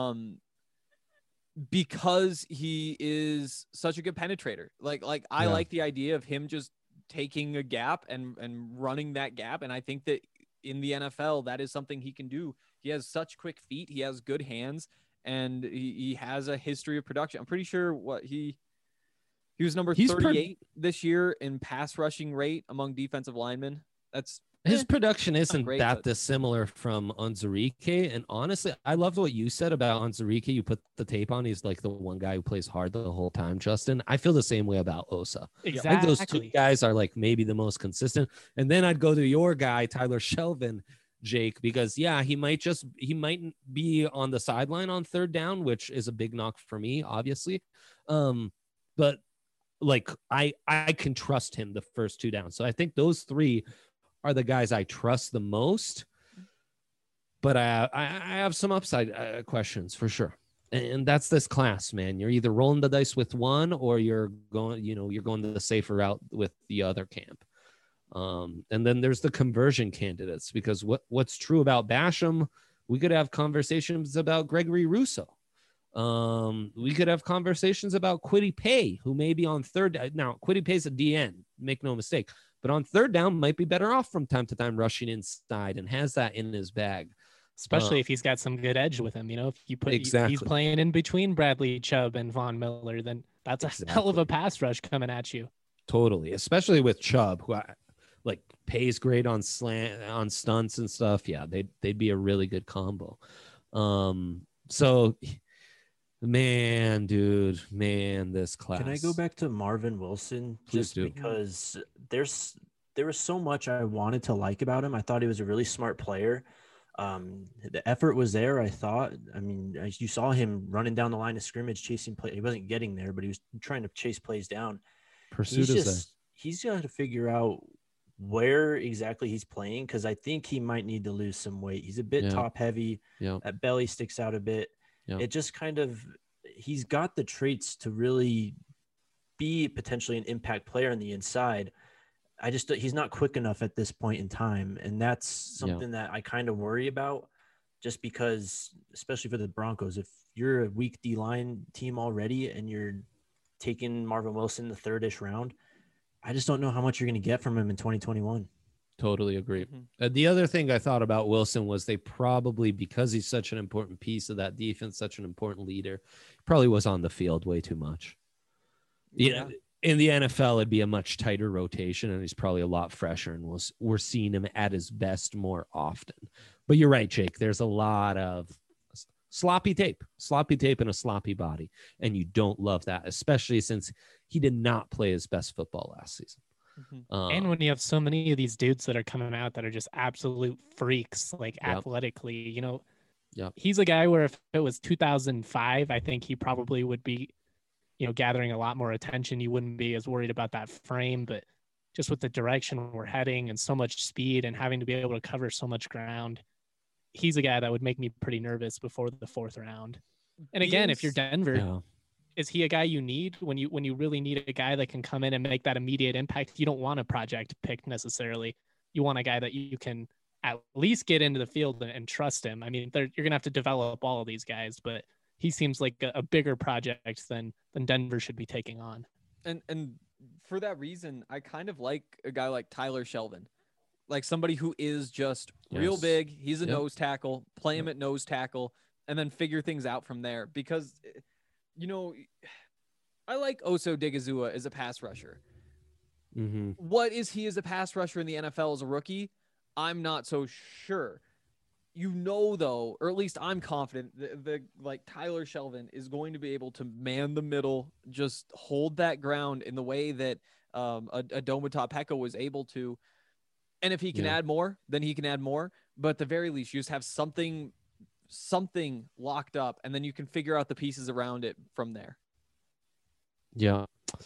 because he is such a good penetrator. I like the idea of him just taking a gap and running that gap. And I think that in the NFL, that is something he can do. He has such quick feet. He has good hands. And he has a history of production. I'm pretty sure he was number 38 this year in pass rushing rate among defensive linemen. His production isn't that dissimilar from Onwuzurike. And honestly, I loved what you said about Onwuzurike. You put the tape on. He's like the one guy who plays hard the whole time, Justin. I feel the same way about Osa. Exactly. I think those two guys are like maybe the most consistent. And then I'd go to your guy, Tyler Shelvin, Jake, because he might be on the sideline on third down, which is a big knock for me, obviously. But like I can trust him the first two downs. So I think those three are the guys I trust the most. But I have some upside questions for sure. And that's this class, man. You're either rolling the dice with one or you're going to the safer route with the other camp. And then there's the conversion candidates, because what's true about Basham, we could have conversations about Gregory Rousseau. We could have conversations about Kwity Paye, who may be on third. Now, Kwity Paye's a DN, make no mistake, but on third down might be better off from time to time rushing inside and has that in his bag. Especially if he's got some good edge with him. If you put he's playing in between Bradley Chubb and Von Miller, then that's a hell of a pass rush coming at you. Totally, especially with Chubb, who like Paye's great on stunts and stuff. Yeah, they'd be a really good combo. So man, this class. Can I go back to Marvin Wilson? Please do. Because there was so much I wanted to like about him. I thought he was a really smart player. The effort was there, I thought. I mean, you saw him running down the line of scrimmage, chasing play. He wasn't getting there, but he was trying to chase plays down. Pursuit is there. He's got to figure out where exactly he's playing, because I think he might need to lose some weight. He's a bit top heavy. That belly sticks out a bit. It just kind of, he's got the traits to really be potentially an impact player on the inside. He's not quick enough at this point in time. And that's something that I kind of worry about, just because, especially for the Broncos, if you're a weak D-line team already and you're taking Marvin Wilson the third-ish round, I just don't know how much you're going to get from him in 2021. Totally agree. The other thing I thought about Wilson was they probably, because he's such an important piece of that defense, such an important leader, probably was on the field way too much. In the NFL, it'd be a much tighter rotation, and he's probably a lot fresher, and we're seeing him at his best more often. But you're right, Jake. There's a lot of sloppy tape and a sloppy body, and you don't love that, especially since he did not play his best football last season. And when you have so many of these dudes that are coming out that are just absolute freaks, like athletically, you know, he's a guy where if it was 2005, I think he probably would be, you know, gathering a lot more attention. You wouldn't be as worried about that frame, but just with the direction we're heading and so much speed and having to be able to cover so much ground, he's a guy that would make me pretty nervous before the 4th round. And again, if you're Denver, is he a guy you need when you really need a guy that can come in and make that immediate impact? You don't want a project pick necessarily. You want a guy that you can at least get into the field and trust him. I mean, you're going to have to develop all of these guys, but he seems like a bigger project than Denver should be taking on. And for that reason, I kind of like a guy like Tyler Shelvin, like somebody who is just real big. He's a nose tackle, play him at nose tackle, and then figure things out from there. Because, you know, I like Oso Odighizuwa as a pass rusher. Mm-hmm. What is he as a pass rusher in the NFL as a rookie? I'm not so sure. You know, though, or at least I'm confident the like Tyler Shelvin is going to be able to man the middle, just hold that ground in the way that a Domata Peko was able to. And if he can add more, then he can add more. But at the very least, you just have something locked up, and then you can figure out the pieces around it from there. Yeah.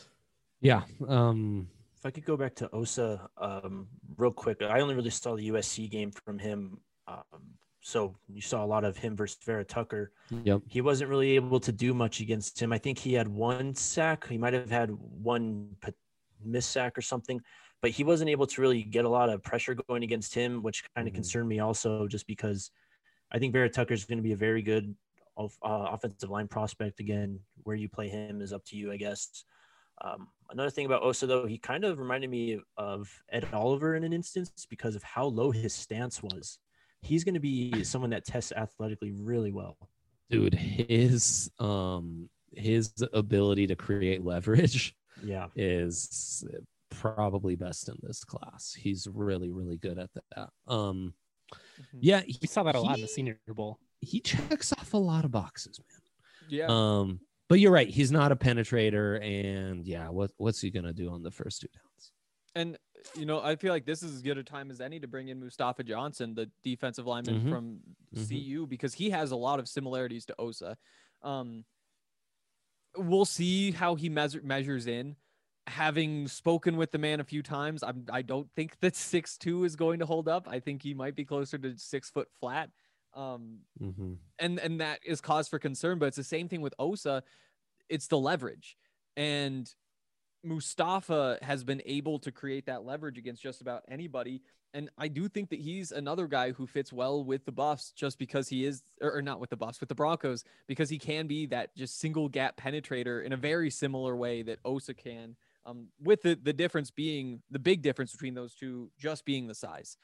If I could go back to Osa real quick, I only really saw the USC game from him. So you saw a lot of him versus Vera Tucker. Yep. He wasn't really able to do much against him. I think he had 1 sack. He might have had 1 miss sack or something, but he wasn't able to really get a lot of pressure going against him, which kind of concerned me also, just because I think Vera Tucker is going to be a very good offensive line prospect. Again, where you play him is up to you, I guess. Another thing about Osa, though, he kind of reminded me of Ed Oliver in an instance because of how low his stance was. He's going to be someone that tests athletically really well. Dude, his ability to create leverage is probably best in this class. He's really, really good at that. Yeah, we saw that a lot in the Senior Bowl. He checks off a lot of boxes, man. Yeah. But you're right. He's not a penetrator, and what's he gonna do on the first 2 downs? And you know, I feel like this is as good a time as any to bring in Mustafa Johnson, the defensive lineman from CU, because he has a lot of similarities to Osa. We'll see how he measures in. Having spoken with the man a few times, I don't think that 6'2" is going to hold up. I think he might be closer to 6 foot flat. And that is cause for concern, but it's the same thing with Osa. It's the leverage, and Mustafa has been able to create that leverage against just about anybody. And I do think that he's another guy who fits well with the Buffs, just because he is, or not with the Buffs, with the Broncos, because he can be that just single gap penetrator in a very similar way that Osa can, with the difference being, the big difference between those two just being the size.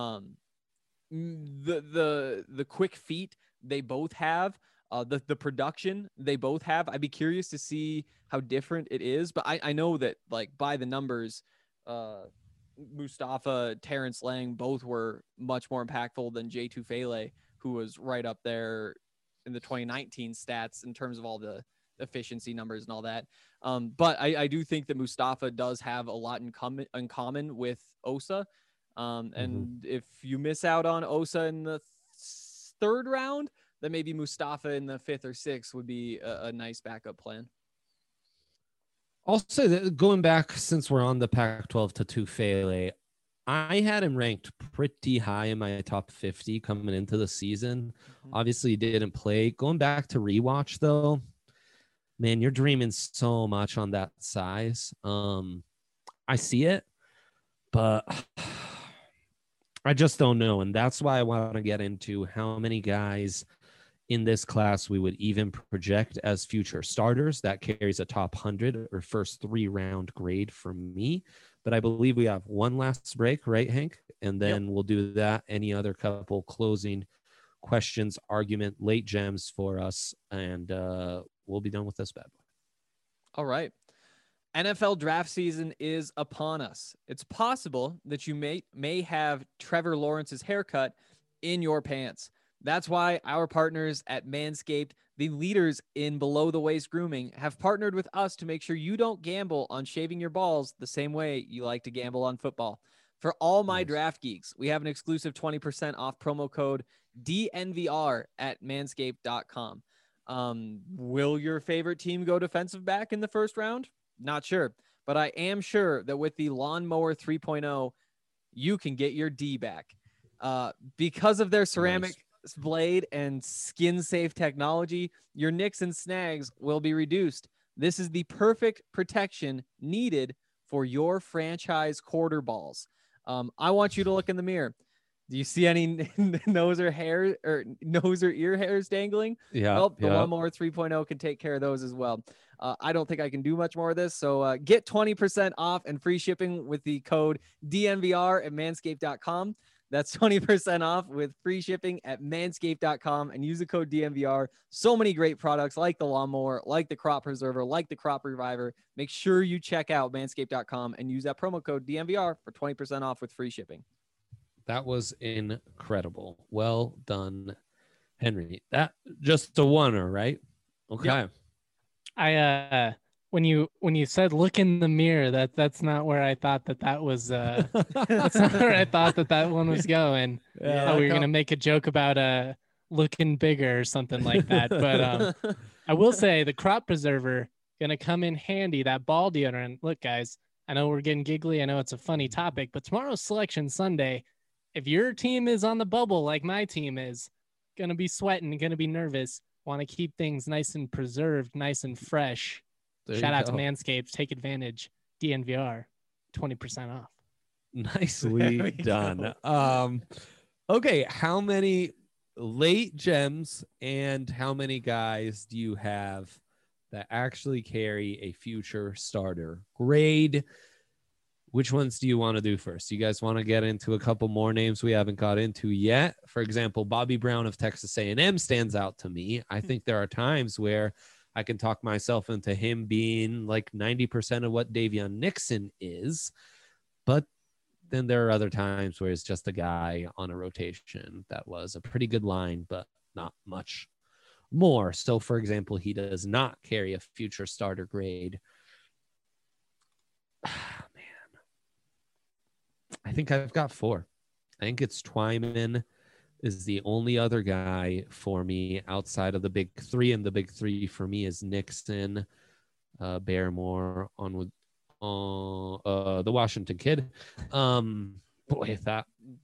The quick feet they both have, the production they both have. I'd be curious to see how different it is, but I know that, like, by the numbers, Mustafa, Terrence Lang both were much more impactful than Jay Tufele, who was right up there in the 2019 stats in terms of all the efficiency numbers and all that. But I do think that Mustafa does have a lot in common with Osa. And if you miss out on Osa in the 3rd round, then maybe Mustafa in the 5th or 6th would be a nice backup plan. Also, going back, since we're on the Pac-12 to Tufele, I had him ranked pretty high in my top 50 coming into the season. Obviously, he didn't play. Going back to rewatch, though, man, you're dreaming so much on that size. I see it, but I just don't know. And that's why I want to get into how many guys in this class we would even project as future starters. That carries a top 100 or first 3-round grade for me. But I believe we have one last break, right, Hank? And then we'll do that. Any other couple closing questions, argument, late gems for us. And we'll be done with this bad boy. All right. NFL draft season is upon us. It's possible that you may have Trevor Lawrence's haircut in your pants. That's why our partners at Manscaped, the leaders in below the waist grooming, have partnered with us to make sure you don't gamble on shaving your balls the same way you like to gamble on football. For all my draft geeks, we have an exclusive 20% off promo code DNVR at manscaped.com. Will your favorite team go defensive back in the first round? Not sure, but I am sure that with the Lawnmower 3.0, you can get your D back. Because of their ceramic blade and skin-safe technology, your nicks and snags will be reduced. This is the perfect protection needed for your franchise quarter balls. I want you to look in the mirror. Do you see any nose or ear hairs dangling? Yeah. Well, the Lawnmower 3.0 can take care of those as well. I don't think I can do much more of this. So get 20% off and free shipping with the code DNVR at manscaped.com. That's 20% off with free shipping at manscaped.com and use the code DNVR. So many great products like the Lawnmower, like the Crop Preserver, like the Crop Reviver. Make sure you check out manscaped.com and use that promo code DNVR for 20% off with free shipping. That was incredible. Well done, Henry. That just a oneer, right? Okay. Yep. I when you said look in the mirror, that's not where I thought that was that's not where I thought that one was going. Yeah, we were gonna make a joke about looking bigger or something like that. But I will say the Crop Preserver gonna come in handy. That ball deodorant. Look, guys, I know we're getting giggly. I know it's a funny topic, but tomorrow's Selection Sunday. If your team is on the bubble like my team is, gonna be sweating, gonna be nervous, want to keep things nice and preserved, nice and fresh. Shout out to Manscaped. Take advantage. DNVR, 20% off. Nicely done. Okay, how many late gems and how many guys do you have that actually carry a future starter grade? Which ones do you want to do first? You guys want to get into a couple more names we haven't got into yet? For example, Bobby Brown of Texas A&M stands out to me. I think there are times where I can talk myself into him being like 90% of what Davion Nixon is. But then there are other times where it's just a guy on a rotation that was a pretty good line, but not much more. So, for example, he does not carry a future starter grade. I think I've got four. I think it's Twyman is the only other guy for me outside of the big three, and the big three for me is Nixon, Barrymore, on with the Washington kid. Boy, that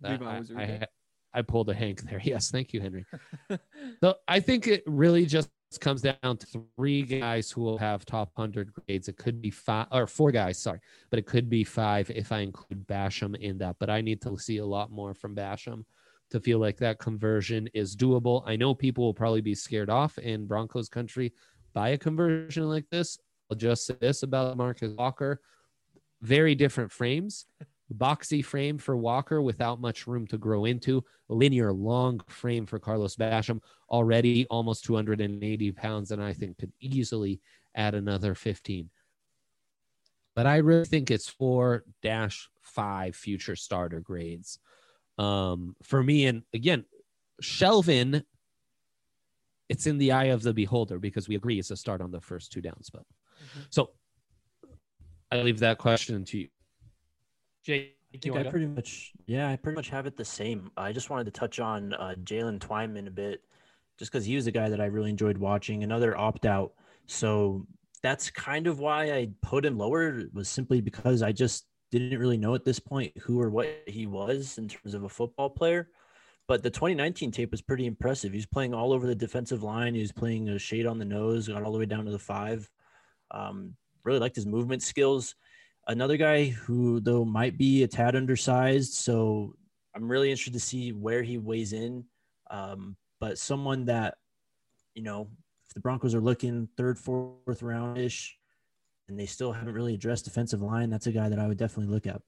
I pulled a Hank there. Yes, thank you, Henry. So I think it really just comes down to three guys who will have top 100 grades. It could be four guys, sorry, but it could be five if I include Basham in that. But I need to see a lot more from Basham to feel like that conversion is doable. I know people will probably be scared off in Broncos country by a conversion like this. I'll just say this about Marcus Walker. Very different frames. Boxy frame for Walker without much room to grow into. Linear long frame for Carlos Basham, already almost 280 pounds, and I think could easily add another 15. But I really think it's 4-5 future starter grades for me. And again, Shelvin, it's in the eye of the beholder because we agree it's a start on the first two downs. But so I leave that question to you. Jake, I pretty much have it the same. I just wanted to touch on Jalen Twyman a bit, just because he was a guy that I really enjoyed watching. Another opt-out, so that's kind of why I put him lower. Was simply because I just didn't really know at this point who or what he was in terms of a football player. But the 2019 tape was pretty impressive. He was playing all over the defensive line. He was playing a shade on the nose, got all the way down to the 5. Really liked his movement skills. Another guy who, though, might be a tad undersized, so I'm really interested to see where he weighs in. But someone that, if the Broncos are looking third, fourth round-ish, and they still haven't really addressed defensive line, that's a guy that I would definitely look at.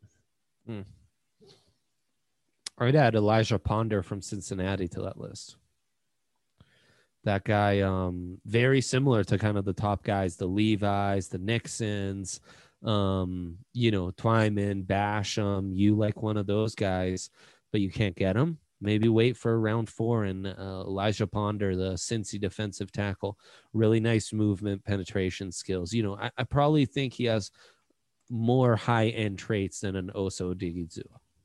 I would add Elijah Ponder from Cincinnati to that list. That guy, very similar to kind of the top guys, the Levis, the Nixons, Twyman, Basham, you like one of those guys, but you can't get them. Maybe wait for round 4 and Elijah Ponder, the Cincy defensive tackle, really nice movement, penetration skills. I probably think he has more high-end traits than an Osa Odighizuwa.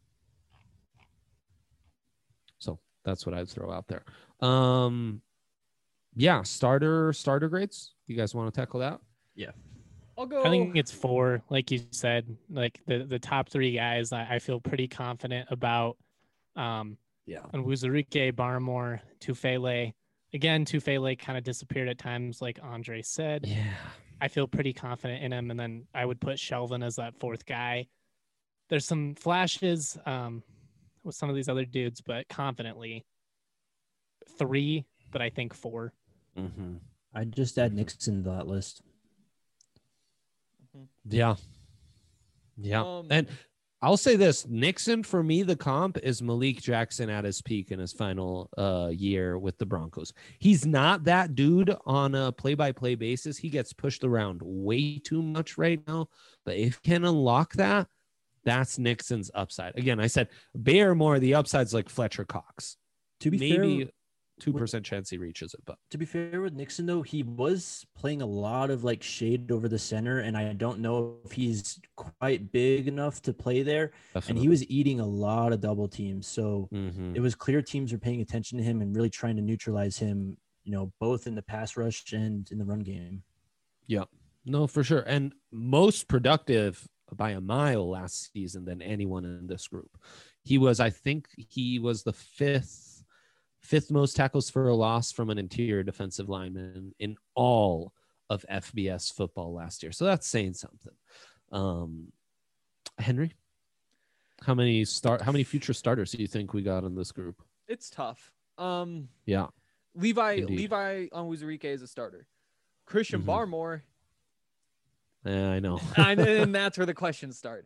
So that's what I'd throw out there. Starter grades. You guys want to tackle that? Yeah. I'll go. I think it's 4, like you said, like the top 3 guys. I feel pretty confident about. And Onwuzurike, Barmore, Tufele. Again, Tufele kind of disappeared at times, like Andre said. Yeah. I feel pretty confident in him. And then I would put Shelvin as that 4th guy. There's some flashes with some of these other dudes, but confidently 3, but I think 4. Mm-hmm. I'd just add Nixon to that list. Yeah. And I'll say this, Nixon, for me, the comp is Malik Jackson at his peak in his final year with the Broncos. He's not that dude on a play-by-play basis. He gets pushed around way too much right now. But if he can unlock that, that's Nixon's upside. Again, I said Bear more, the upside's like Fletcher Cox. To be maybe fair, 2% chance he reaches it. But to be fair with Nixon, though, he was playing a lot of like shade over the center, and I don't know if he's quite big enough to play there. Definitely. And he was eating a lot of double teams, so it was clear teams were paying attention to him and really trying to neutralize him, both in the pass rush and in the run game. Yeah, no, for sure. And most productive by a mile last season than anyone in this group. I think he was the fifth most tackles for a loss from an interior defensive lineman in all of FBS football last year. So that's saying something. Henry, how many future starters do you think we got in this group? It's tough. Yeah. Levi Onwuzurike is a starter. Christian Barmore. Yeah, I know. And that's where the questions start.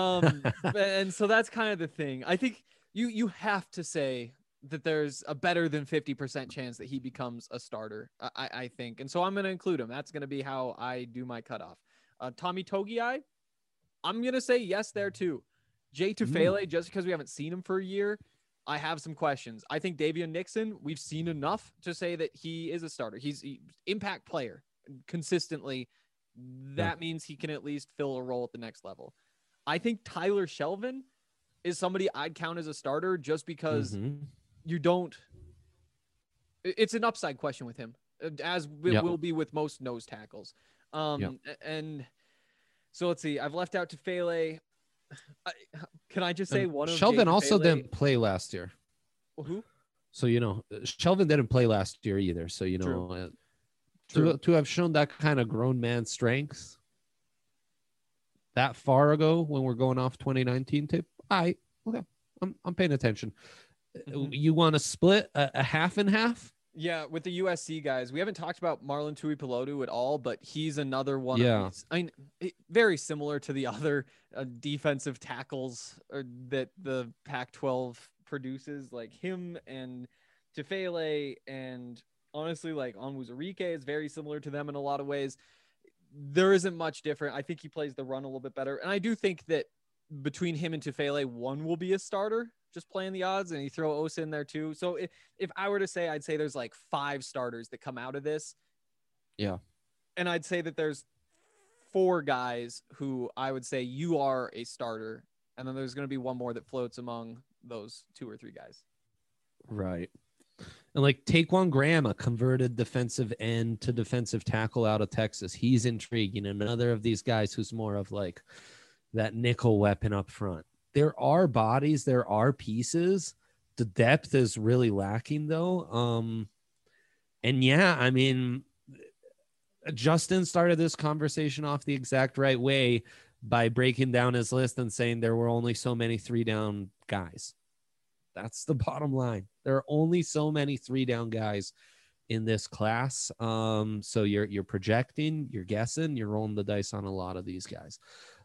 And so that's kind of the thing. I think you have to say that there's a better than 50% chance that he becomes a starter, I think. And so I'm going to include him. That's going to be how I do my cutoff. Tommy Togiai, I'm going to say yes there too. Jay Tufele, just because we haven't seen him for a year, I have some questions. I think Davion Nixon, we've seen enough to say that he is a starter. He's an impact player consistently. That means he can at least fill a role at the next level. I think Tyler Shelvin is somebody I'd count as a starter just because you don't. It's an upside question with him, as it will be with most nose tackles. And so let's see. I've left out Tufele. Can I just say one of Shelvin also didn't play last year. Who? So Shelvin didn't play last year either. So to have shown that kind of grown man strength that far ago when we're going off 2019 tape, I'm paying attention. You want to split a half and half? Yeah, with the USC guys, we haven't talked about Marlon Tuipulotu at all, but he's another one. Yeah, of these, very similar to the other defensive tackles that the Pac-12 produces, like him and Tufele, and honestly, like Onwuzurike is very similar to them in a lot of ways. There isn't much different. I think he plays the run a little bit better, and I do think that between him and Tufele, one will be a starter. Just playing the odds, and you throw Osa in there too. So if I were to say, I'd say there's like 5 starters that come out of this. Yeah. And I'd say that there's 4 guys who I would say you are a starter. And then there's going to be one more that floats among those 2 or 3 guys. Right. And like Taquan Graham, a converted defensive end to defensive tackle out of Texas. He's intriguing. Another of these guys who's more of like that nickel weapon up front. There are bodies, there are pieces. The depth is really lacking though. And yeah, I mean, Justin started this conversation off the exact right way by breaking down his list and saying there were only so many 3-down guys. That's the bottom line. There are only so many 3-down guys in this class. So you're projecting, you're guessing, you're rolling the dice on a lot of these guys.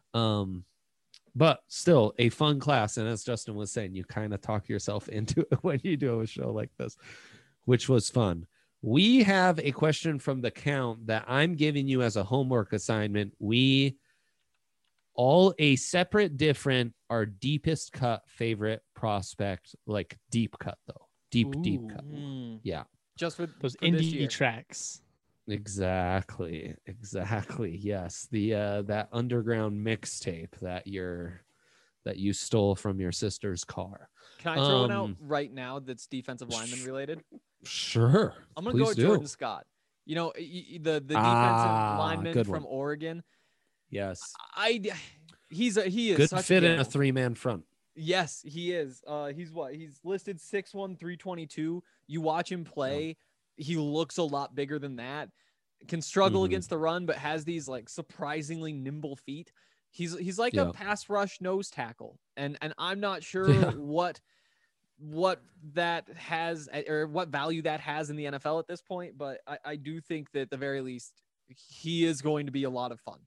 But still a fun class. And as Justin was saying, you kind of talk yourself into it when you do a show like this, which was fun. We have a question from the count that I'm giving you as a homework assignment. We all a separate, different, our deepest cut favorite prospect, like deep cut though, deep cut. Yeah, just for those indie tracks. Exactly. Yes, the that underground mixtape that you stole from your sister's car. Can I throw one out right now that's defensive lineman related? Sure. I'm gonna go with Jordan Scott. You know, the defensive lineman from Oregon. Yes. He is good such fit a in a 3-man front. Yes, he is. He's listed 6'1", 322. You watch him play, he looks a lot bigger than that. Can struggle against the run, but has these like surprisingly nimble feet. He's like a pass rush nose tackle, and I'm not sure what that has or what value that has in the NFL at this point, but I do think that at the very least he is going to be a lot of fun.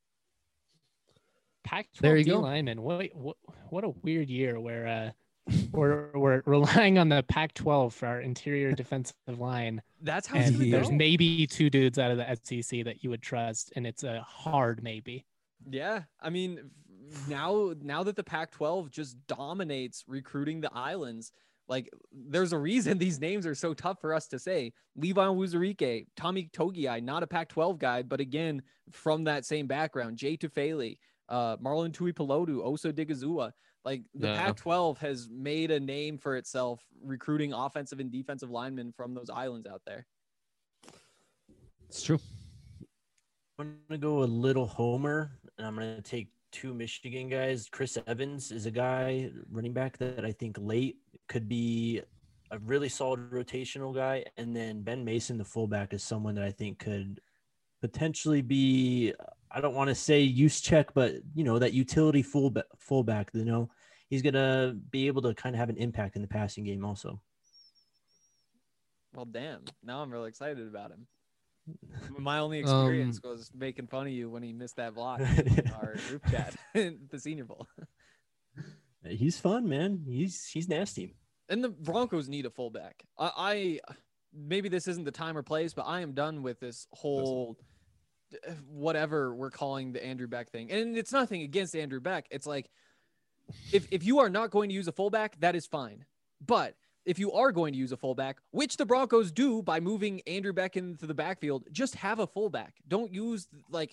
Pac-12 D lineman. What a weird year where we're relying on the Pac-12 for our interior defensive line. That's how there's maybe 2 dudes out of the SEC that you would trust, and it's a hard maybe. Yeah, I mean, now that the Pac-12 just dominates recruiting the islands, like there's a reason these names are so tough for us to say. Levi Wuzurike, Tommy Togiai, not a Pac-12 guy, but again from that same background. Jay Tufele, Marlon Tuipulotu, Oso Digizua. Like the Pac-12 has made a name for itself recruiting offensive and defensive linemen from those islands out there. It's true. I'm going to go a little homer, and I'm going to take 2 Michigan guys. Chris Evans is a guy, running back, that I think late could be a really solid rotational guy. And then Ben Mason, the fullback, is someone that I think could potentially be, I don't want to say use check, but, you know, that utility fullback, you know, he's going to be able to kind of have an impact in the passing game also. Well, damn. Now I'm really excited about him. My only experience was making fun of you when he missed that block in our group chat in the Senior Bowl. He's fun, man. He's nasty. And the Broncos need a fullback. I maybe this isn't the time or place, but I am done with this whole whatever we're calling the Andrew Beck thing. And it's nothing against Andrew Beck. It's like if you are not going to use a fullback, that is fine. But if you are going to use a fullback, which the Broncos do by moving Andrew Beck into the backfield, just have a fullback. Don't use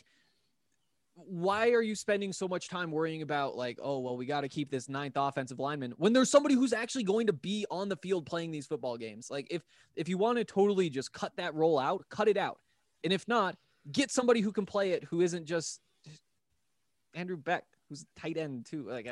why are you spending so much time worrying about like, oh, well, we got to keep this 9th offensive lineman when there's somebody who's actually going to be on the field playing these football games? Like if you want to totally just cut that role out, cut it out. And if not, get somebody who can play it, who isn't just Andrew Beck, who's a tight end too. Like,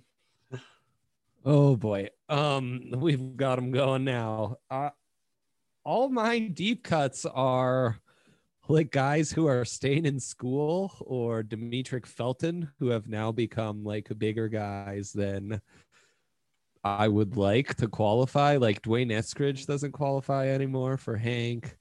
oh boy. We've got them going now. All my deep cuts are like guys who are staying in school, or Demetric Felton, who have now become like bigger guys than I would like to qualify. Like Dwayne Eskridge doesn't qualify anymore for Hank.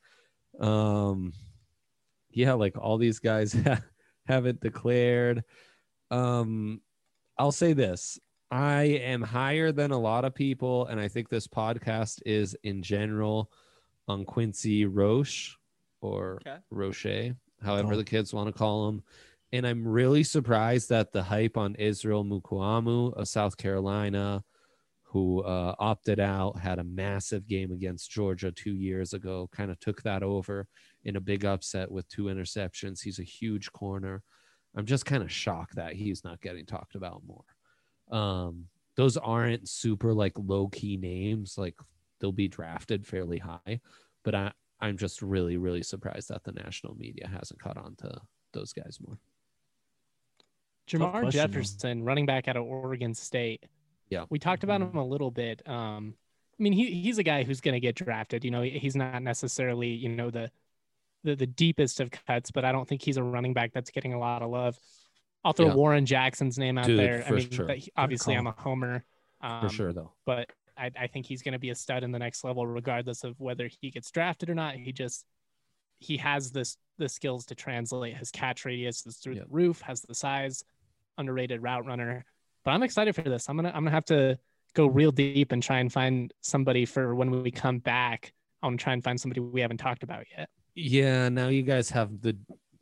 Yeah, like all these guys haven't declared. I'll say this. I am higher than a lot of people, and I think this podcast is in general on Quincy Roche or Roche, however the kids want to call him. And I'm really surprised that the hype on Israel Mukuamu of South Carolina, who opted out, had a massive game against Georgia 2 years ago, kind of took that over in a big upset with 2 interceptions. He's a huge corner. I'm just kind of shocked that he's not getting talked about more. Those aren't super like low key names. Like they'll be drafted fairly high, but I'm just really, really surprised that the national media hasn't caught on to those guys more. Jamar Jefferson, running back out of Oregon State. Yeah. We talked about him a little bit. I mean, he's a guy who's going to get drafted. You know, he's not necessarily, you know, the deepest of cuts, but I don't think he's a running back that's getting a lot of love. I'll throw Warren Jackson's name out there. I mean, sure. Obviously I'm a homer. For sure, though. But I think he's going to be a stud in the next level, regardless of whether he gets drafted or not. He has the skills to translate. His catch radius is through the roof, has the size, underrated route runner. But I'm excited for this. I'm gonna have to go real deep and try and find somebody for when we come back. I'm trying to find somebody we haven't talked about yet. Yeah, now you guys have the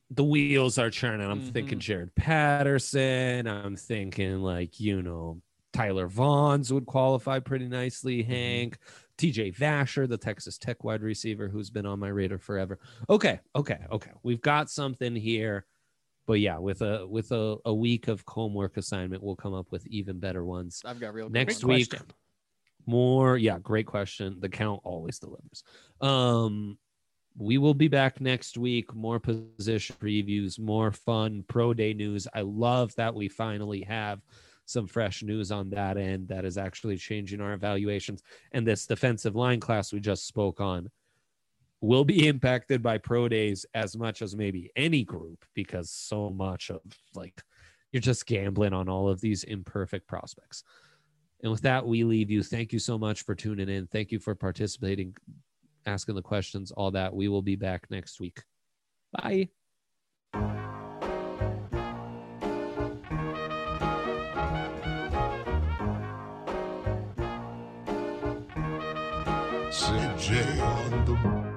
the wheels are churning. I'm thinking Jared Patterson. I'm thinking Tyler Vaughns would qualify pretty nicely. Hank, TJ Vasher, the Texas Tech wide receiver who's been on my radar forever. Okay. We've got something here. But yeah, with a week of homework assignment, we'll come up with even better ones. I've got real next week. More, great question. The count always delivers. We will be back next week. More position previews, more fun pro day news. I love that we finally have some fresh news on that end that is actually changing our evaluations. And this defensive line class we just spoke on will be impacted by pro days as much as maybe any group, because so much of you're just gambling on all of these imperfect prospects. And with that, we leave you. Thank you so much for tuning in. Thank you for participating, asking the questions, all that. We will be back next week. Bye. CJ on the